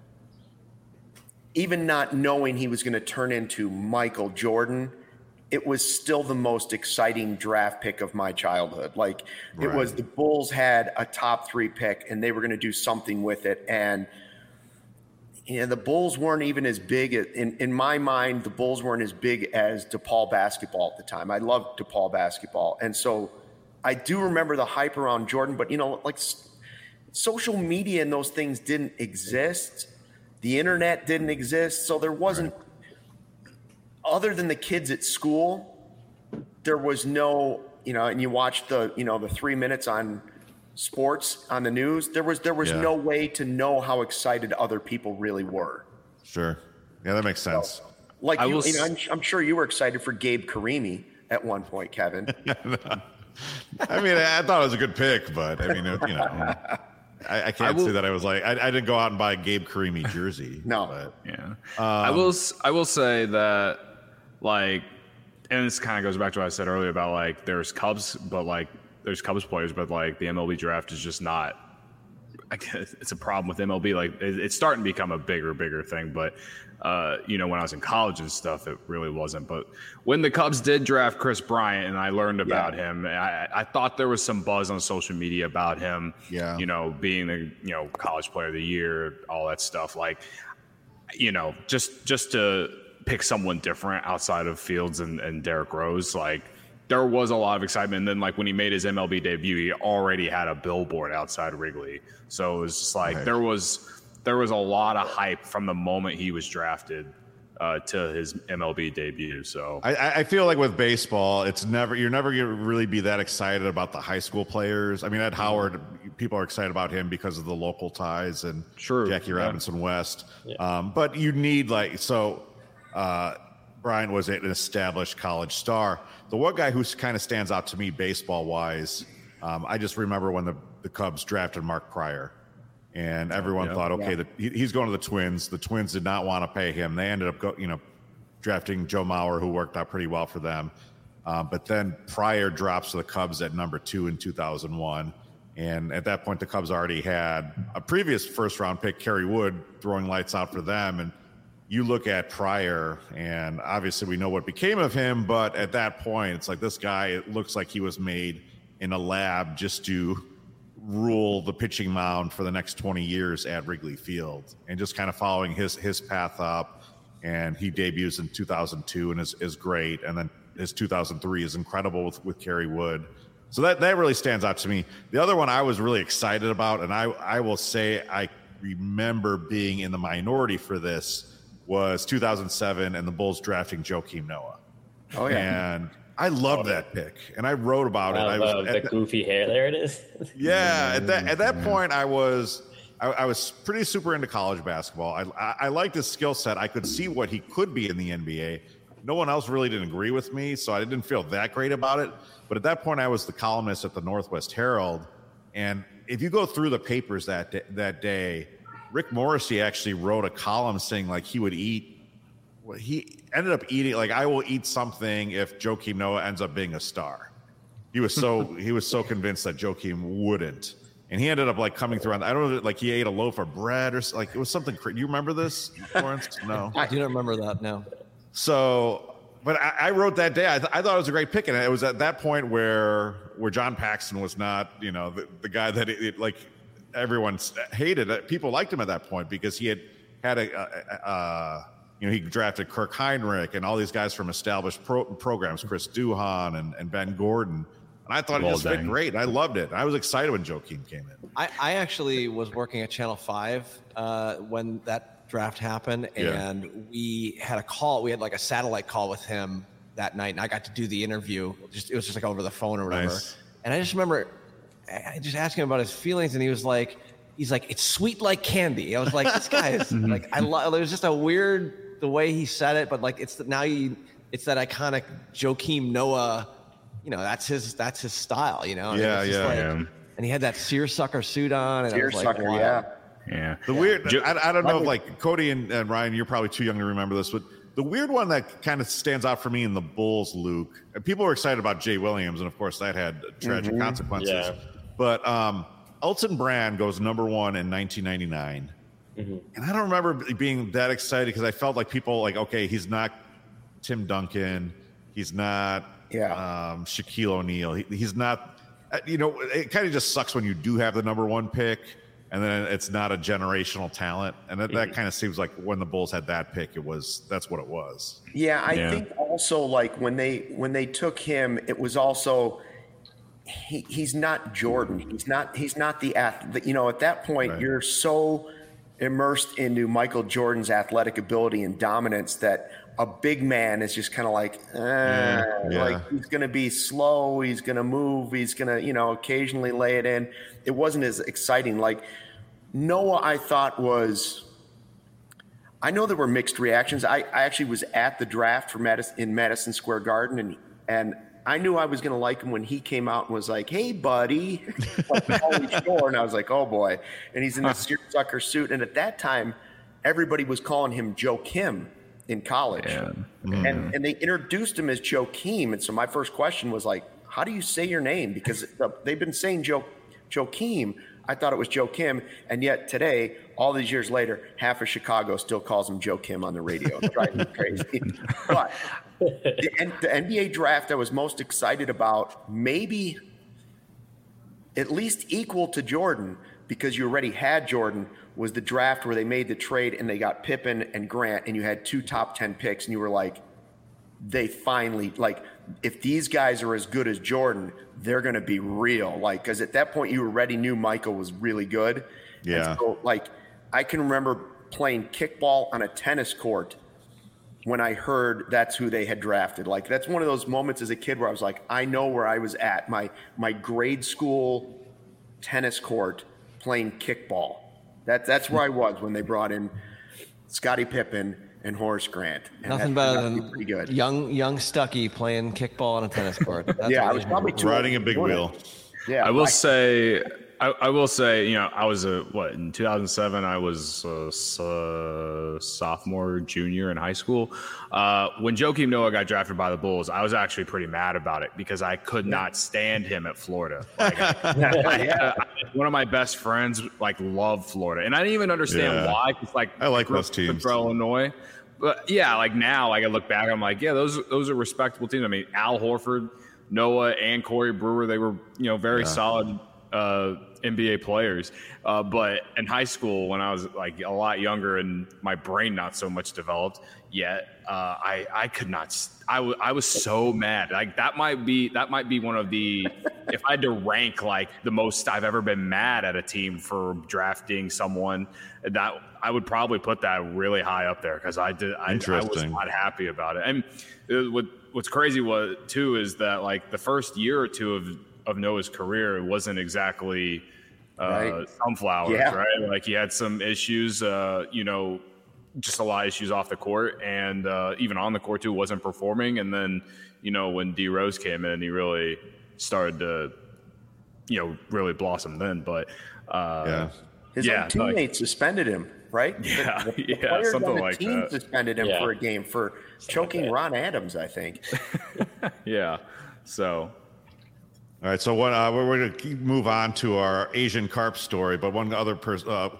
even not knowing he was going to turn into Michael Jordan, it was still the most exciting draft pick of my childhood. Like it was, the Bulls had a top 3 pick and they were going to do something with it. And the Bulls weren't even as big in my mind. The Bulls weren't as big as DePaul basketball at the time. I loved DePaul basketball, and so I do remember the hype around Jordan. But like social media and those things didn't exist. The internet didn't exist, so there wasn't. Other than the kids at school, there was no. And you watched the 3 minutes on sports on the news, there was no way to know how excited other people really were. Sure. Yeah, that makes sense. So, like I'm sure you were excited for Gabe Karimi at one point, Kevin. I mean, I thought it was a good pick, but I mean, I can't say that I was like, I didn't go out and buy a Gabe Karimi jersey. No. But, yeah. I will say that, like, and this kind of goes back to what I said earlier about like there's Cubs players, but like the MLB draft is just not. I guess it's a problem with MLB. Like it's starting to become a bigger thing. But when I was in college and stuff, it really wasn't. But when the Cubs did draft Chris Bryant, and I learned about him, I thought there was some buzz on social media about him. Yeah. Being the college player of the year, all that stuff. Like, just to pick someone different outside of Fields and Derrick Rose, like. There was a lot of excitement. And then, like, when he made his MLB debut, he already had a billboard outside Wrigley. So it was just like there was a lot of hype from the moment he was drafted to his MLB debut. So I feel like with baseball, you're never going to really be that excited about the high school players. I mean, Ed Howard, people are excited about him because of the local ties and Jackie Robinson West. Yeah. But you need Bryant was an established college star. The one guy who kind of stands out to me baseball-wise, I just remember when the Cubs drafted Mark Pryor, and everyone thought, he's going to the Twins. The Twins did not want to pay him. They ended up drafting Joe Mauer, who worked out pretty well for them. But then Pryor drops to the Cubs at number 2 in 2001. And at that point, the Cubs already had a previous first-round pick, Kerry Wood, throwing lights out for them. And you look at Pryor, and obviously we know what became of him, but at that point, it's like this guy, it looks like he was made in a lab just to rule the pitching mound for the next 20 years at Wrigley Field, and just kind of following his path up. And he debuts in 2002 and is great. And then his 2003 is incredible with Kerry Wood. So that really stands out to me. The other one I was really excited about, and I will say I remember being in the minority for this, was 2007 and the Bulls drafting Joakim Noah. Oh, yeah. And I loved that pick, and I wrote about it. The goofy hair, there it is. Yeah, at that point, I was pretty super into college basketball. I liked his skill set. I could see what he could be in the NBA. No one else really didn't agree with me, so I didn't feel that great about it. But at that point, I was the columnist at the Northwest Herald, and if you go through the papers that day, Rick Morrissey actually wrote a column saying like he would eat. He ended up eating like, I will eat something if Joakim Noah ends up being a star. He was so convinced that Joakim wouldn't. and he ended up like coming through on, I don't know, like he ate a loaf of bread or like it was something crazy. Do you remember this, Lawrence? No. I do not remember that, no. So, but I wrote that day, I thought it was a great pick, and it was at that point where John Paxson was not, you know, the guy that it like everyone hated. People liked him at that point because he had you know, he drafted Kirk Heinrich and all these guys from established programs, Chris Duhon and Ben Gordon. And I thought it just fit great. I loved it. I was excited when Joakim came in. I actually was working at Channel 5 when that draft happened, and we had a call. We had like a satellite call with him that night, and I got to do the interview. It was just like over the phone or whatever. Nice. And I just remember I just asked him about his feelings, and he's like, it's sweet like candy. I was like, this guy is like, it was just a weird the way he said it, but like it's that iconic Joakim Noah, you know, that's his style, you know. And he had that seersucker suit on, and seersucker, like, wow. Yeah. The weird, I don't know if like Cody and Ryan, you're probably too young to remember this, but the weird one that kind of stands out for me in the Bulls, Luke, people were excited about Jay Williams, and of course that had tragic consequences. Yeah. But Elton Brand goes number 1 in 1999. And I don't remember being that excited because I felt like people like, okay, he's not Tim Duncan. He's not Shaquille O'Neal. He's not, you know, it kind of just sucks when you do have the number 1 pick and then it's not a generational talent. And that kind of seems like when the Bulls had that pick, that's what it was. Yeah. I think also like when they took him, it was also, he's not Jordan. He's not the athlete. You know, at that point, you're so immersed into Michael Jordan's athletic ability and dominance that a big man is just kind of like, like he's going to be slow. He's going to move. He's going to, you know, occasionally lay it in. It wasn't as exciting. Like Noah, I thought I know there were mixed reactions. I actually was at the draft in Madison Square Garden and I knew I was going to like him when he came out and was like, "Hey, buddy," like Pauly Shore, and I was like, "Oh boy!" And he's in this seersucker suit, and at that time, everybody was calling him Joakim in college, and they introduced him as Joakim. And so my first question was like, "How do you say your name?" Because they've been saying Joakim. I thought it was Joakim, and yet today, all these years later, half of Chicago still calls him Joakim on the radio. It's driving me crazy. But the NBA draft I was most excited about, maybe at least equal to Jordan, because you already had Jordan, was the draft where they made the trade and they got Pippen and Grant, and you had 2 top 10 picks, and you were like, they finally, like, if these guys are as good as Jordan, they're going to be real. Like, because at that point you already knew Michael was really good. Yeah. And so, like, I can remember playing kickball on a tennis court when I heard that's who they had drafted. Like, that's one of those moments as a kid where I was like, I know where I was at. My grade school tennis court playing kickball. That's where I was when they brought in Scottie Pippen and Horace Grant. And nothing better than pretty good. young Stucky playing kickball on a tennis court. I was probably riding a big wheel. Yeah, I will say, you know, I was in 2007, I was a sophomore, junior in high school. When Joakim Noah got drafted by the Bulls, I was actually pretty mad about it because I could not stand him at Florida. Like, one of my best friends like loved Florida, and I didn't even understand why. Cause, like, I like those teams, Illinois. But yeah, like now, like I look back, I'm like, yeah, those are respectable teams. I mean, Al Horford, Noah, and Corey Brewer, they were, you know, very solid NBA players. But in high school, when I was like a lot younger and my brain not so much developed yet, I could not. I was so mad. Like that might be one of the, if I had to rank like the most I've ever been mad at a team for drafting someone, that I would probably put that really high up there because I was not happy about it. And what's crazy too is that like the first year or two of Noah's career, it wasn't exactly sunflowers, right? Like he had some issues, you know, just a lot of issues off the court and even on the court too, wasn't performing. And then, you know, when D Rose came in, he really started to, you know, really blossom then. But his own teammates suspended him, right? The players something on the like team that. Suspended him for a game for choking Ron Adams, I think. Yeah. So All right, so we're going to move on to our Asian carp story, but one other person,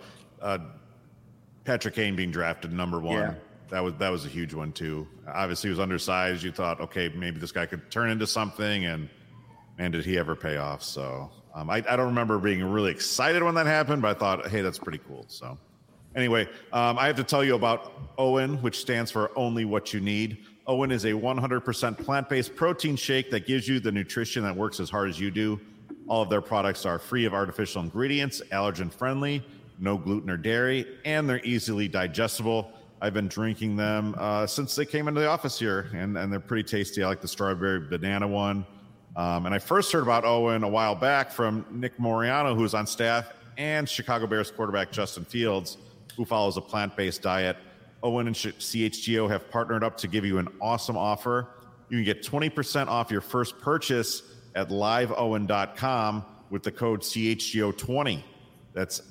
Patrick Kane being drafted number 1. Yeah. That was a huge one too. Obviously, he was undersized. You thought, okay, maybe this guy could turn into something, and man, did he ever pay off? So I don't remember being really excited when that happened, but I thought, hey, that's pretty cool. So anyway, I have to tell you about OWYN, which stands for Only What You Need. OWYN is a 100% plant-based protein shake that gives you the nutrition that works as hard as you do. All of their products are free of artificial ingredients, allergen-friendly, no gluten or dairy, and they're easily digestible. I've been drinking them since they came into the office here, and they're pretty tasty. I like the strawberry banana one. And I first heard about OWYN a while back from Nick Moriano, who's on staff, and Chicago Bears quarterback Justin Fields, who follows a plant-based diet. OWYN and CHGO have partnered up to give you an awesome offer. You can get 20% off your first purchase at liveowyn.com with the code CHGO20. That's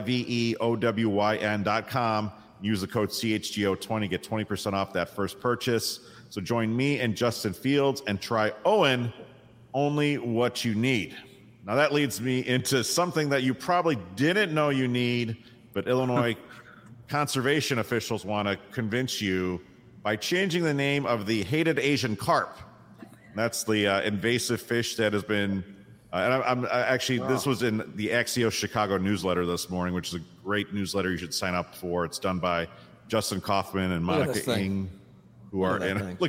LIVEOWYN.com. Use the code CHGO20, get 20% off that first purchase. So join me and Justin Fields and try OWYN, Only What You Need. Now that leads me into something that you probably didn't know you need, but Illinois conservation officials want to convince you by changing the name of the hated Asian carp. That's the invasive fish that has been, this was in the Axios Chicago newsletter this morning, which is a great newsletter you should sign up for. It's done by Justin Kaufman and Monica Ing, who are in our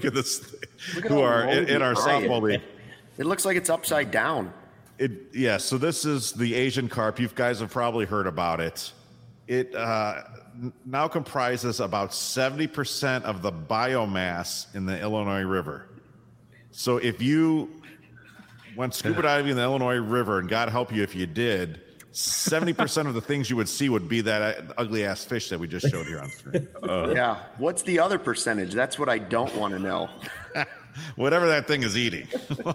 softball league. It looks like it's upside down. So this is the Asian carp. You guys have probably heard about it. It now comprises about 70% of the biomass in the Illinois River. So if you went scuba diving in the Illinois River, and God help you if you did, 70% of the things you would see would be that ugly ass fish that we just showed here on screen. Yeah. What's the other percentage? That's what I don't want to know. Whatever that thing is eating.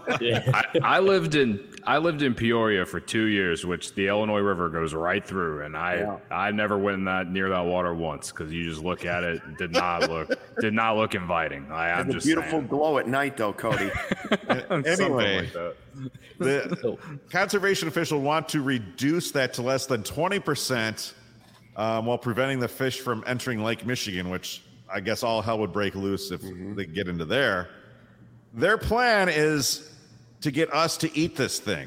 I lived in Peoria for 2 years, which the Illinois River goes right through, and I never went near that water once because you just look at it, did not look inviting. I'm just beautiful saying. Glow at night, though, Cody. Anyway, the conservation officials want to reduce that to less than 20% while preventing the fish from entering Lake Michigan, which I guess all hell would break loose if they get into there. Their plan is to get us to eat this thing.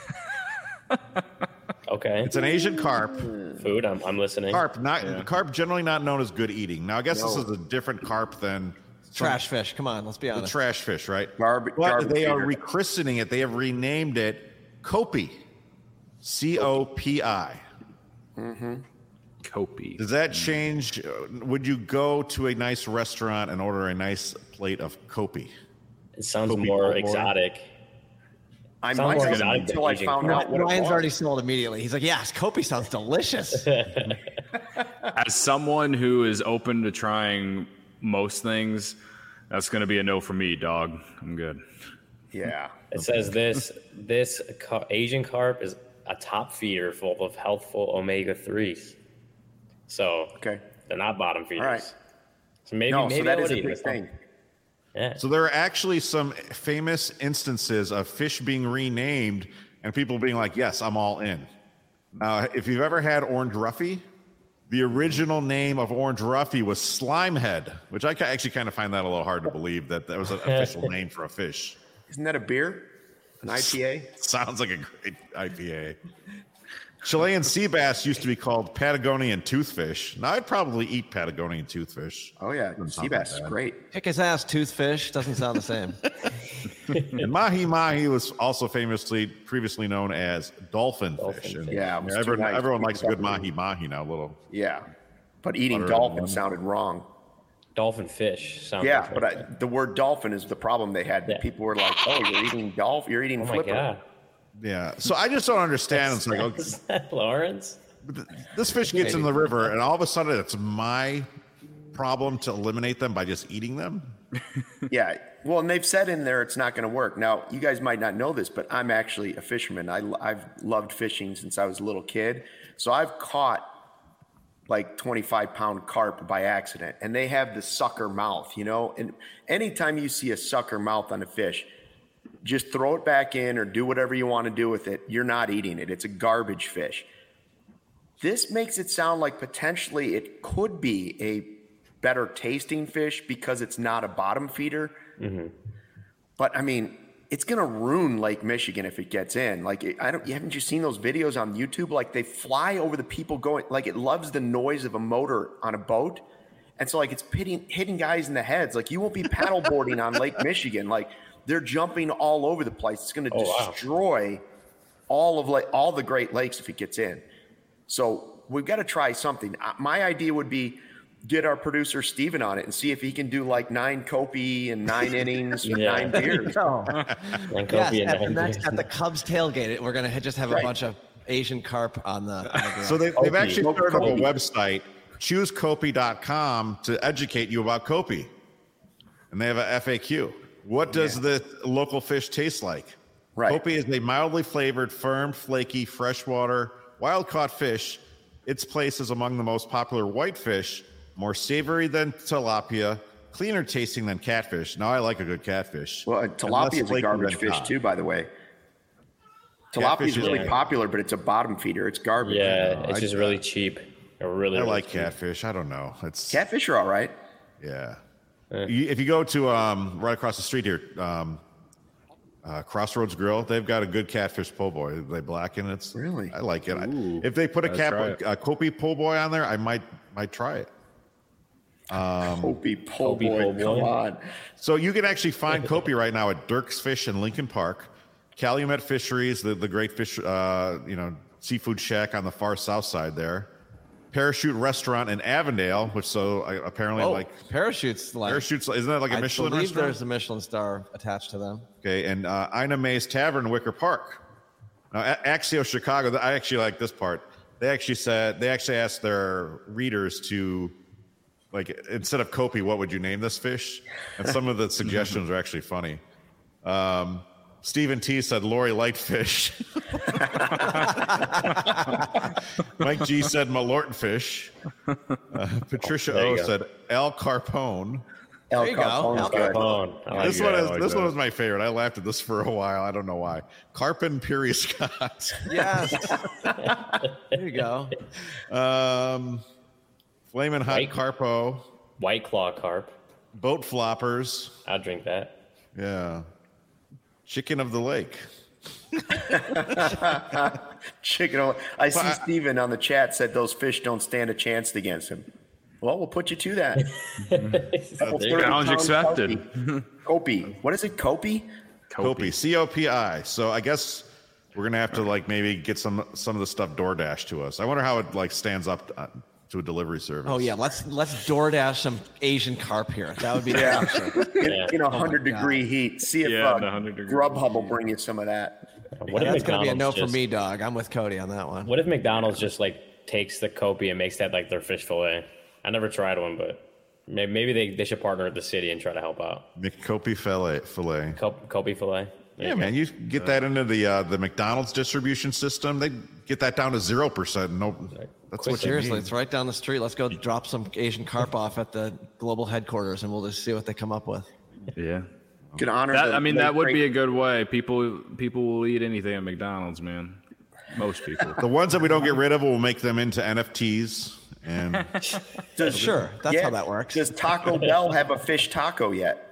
Okay. It's an Asian carp. Food, I'm listening. Carp generally not known as good eating. Now, I guess this is a different carp than trash fish. Come on, let's be honest. The trash fish, right? But they are rechristening it. They have renamed it Copi. COPI. Mm-hmm. Copi. Does that change? Would you go to a nice restaurant and order a nice plate of Copi? It sounds more exotic. I might have until I found out what Ryan's already sold immediately. He's like, yes, Copi sounds delicious. As someone who is open to trying most things, that's going to be a no for me, dog. I'm good. Yeah. It says this Asian carp is a top feeder full of healthful omega-3s. So they're not bottom feeders. All right. So maybe that is a big thing. Yeah. So there are actually some famous instances of fish being renamed and people being like, yes, I'm all in. Now, if you've ever had orange roughy, the original name of orange roughy was slimehead, which I actually kind of find that a little hard to believe that was an official name for a fish. Isn't that a beer? An IPA? Sounds like a great IPA. Chilean sea bass used to be called Patagonian toothfish. Now, I'd probably eat Patagonian toothfish. Oh, yeah. Sea bass is great. Kick his ass, toothfish. Doesn't sound the same. And mahi-mahi was also previously known as dolphin fish. And everyone likes a good mahi-mahi now. Yeah. But eating dolphin sounded wrong. Dolphin fish sounds but the word dolphin is the problem they had. Yeah. People were like, oh, you're eating dolphin. You're eating flipper. My God. Yeah, so I just don't understand. It's like, is that Lawrence? This fish gets in the river, and all of a sudden, it's my problem to eliminate them by just eating them. Yeah, well, and they've said in there it's not going to work. Now, you guys might not know this, but I'm actually a fisherman. I've loved fishing since I was a little kid, so I've caught like 25-pound carp by accident, and they have the sucker mouth, And anytime you see a sucker mouth on a fish, just throw it back in or do whatever you want to do with it. You're not eating it. It's a garbage fish. This makes it sound like potentially it could be a better tasting fish because it's not a bottom feeder. Mm-hmm. But I mean, it's going to ruin Lake Michigan if it gets in. Like, haven't you seen those videos on YouTube? Like, they fly over the people going, like, it loves the noise of a motor on a boat. And so, like, it's hitting guys in the heads. Like, you won't be paddleboarding on Lake Michigan. Like, they're jumping all over the place. It's going to destroy all the Great Lakes if it gets in. So we've got to try something. My idea would be get our producer Steven on it and see if he can do like 9 Kopi and 9 innings with 9 beers. And next at the Cubs tailgate, we're going to just have a bunch of Asian carp on the ground. So they've actually started up a website, choosekopi.com, to educate you about Kopi. And they have a FAQ. What does the local fish taste like? Right. Kopi is a mildly flavored, firm, flaky, freshwater, wild-caught fish. Its place is among the most popular whitefish, more savory than tilapia, cleaner tasting than catfish. Now, I like a good catfish. Well, tilapia is a garbage fish too, by the way. Tilapia is really popular, but it's a bottom feeder. It's garbage. Yeah, it's just really cheap. I like catfish. I don't know. Catfish are all right. Yeah. If you go to right across the street here, Crossroads Grill, they've got a good catfish po' boy. They blacken it. Really? I like it. If they put a Kopi po' boy on there, I might try it. Kopi po' boy, come on. So you can actually find Kopi right now at Dirk's Fish in Lincoln Park, Calumet Fisheries, the great fish, seafood shack on the far south side there, Parachute Restaurant in Avondale, which apparently Parachutes, isn't that like a Michelin restaurant? I believe there's a Michelin star attached to them. Okay, and Ina May's Tavern in Wicker Park. Now, Axios Chicago, I actually like this part. They actually asked their readers to, like, instead of Kopi, what would you name this fish? And some of the suggestions are actually funny. Stephen T said Lori Lightfish. Mike G said Malorton fish. Patricia O said Al Carpone. There you go. Al Carpone. This one was my favorite. I laughed at this for a while. I don't know why. Carpin Piri Scott. Yes. There you go. Flamin' Hot Carpo. White Claw Carp. Boat Floppers. I'll drink that. Yeah. Chicken of the Lake. Chicken. I see Steven on the chat said those fish don't stand a chance against him. Well, we'll put you to that. Challenge accepted. Kopi. What is it? Kopi? Kopi. C-O-P-I. So I guess we're going to have to maybe get some of the stuff DoorDash to us. I wonder how it stands up to a delivery service. Oh yeah, let's DoorDash some Asian carp here. That would be in 100-degree heat. See if Grubhub will bring you some of that. That's going to be a no for me, dog. I'm with Cody on that one. What if McDonald's just takes the Kopi and makes that their fish fillet? I never tried one, but maybe they should partner with the city and try to help out. McKopi fillet. Kopi fillet. Yeah, man, you get that into the McDonald's distribution system. They get that down to 0%. No, that's what seriously. It's right down the street. Let's go drop some Asian carp off at the global headquarters, and we'll just see what they come up with. Yeah, could honor. That would be a good way. People will eat anything at McDonald's, man. Most people. The ones that we don't get rid of, will make them into NFTs. And that's how that works. Does Taco Bell have a fish taco yet?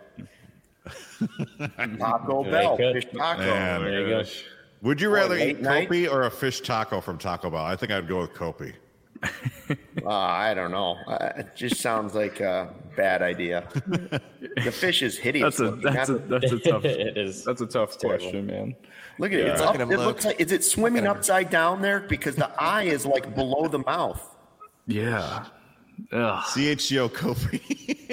Taco Bell, fish taco. Man, there you go. Would you rather eat Kopi or a fish taco from Taco Bell? I think I'd go with Kopi. I don't know. It just sounds like a bad idea. The fish is hideous. That's a tough. It is. That's a tough question, man. Look at it. It looks like, is it swimming upside down there? Because the eye is below the mouth. Yeah. CHGO Kopi.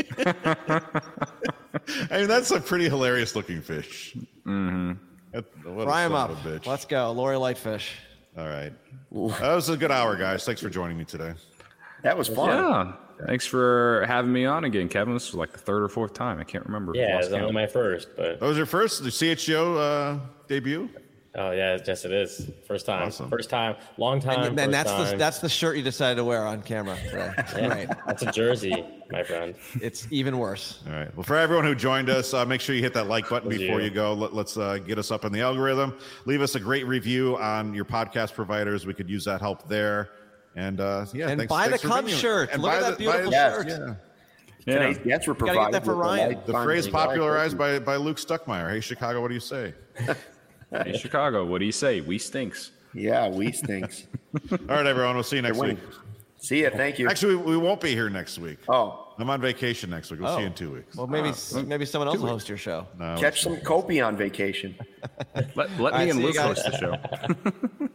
I mean, that's a pretty hilarious looking fish. Mm-hmm. Fry him up. Let's go. Lori Lightfish. All right. That was a good hour, guys. Thanks for joining me today. That was fun. Yeah. Thanks for having me on again, Kevin. This was the third or fourth time. I can't remember. Yeah, it was only my first. But that was your first CHGO debut? Oh yeah, yes it is. First time, Awesome. long time. And that's the shirt you decided to wear on camera today. Yeah, Right. That's a jersey, my friend. It's even worse. All right. Well, for everyone who joined us, make sure you hit that like button before you go. Let's get us up in the algorithm. Leave us a great review on your podcast providers. We could use that help there. And and buy the Cubs shirt. And Look at that beautiful shirt. Yeah. Today's guests were Gotta provided. get that for with Ryan. The phrase popularized by Luke Stuckmeyer. Hey, Chicago, what do you say? Hey, Chicago, what do you say? We stinks. Yeah, we stinks. All right, everyone. We'll see you next week. See ya. Thank you. Actually, we won't be here next week. Oh, I'm on vacation next week. We'll see you in 2 weeks. Well, maybe someone else will host your show. No, catch some Kopi on vacation. Let me and Luke host the show.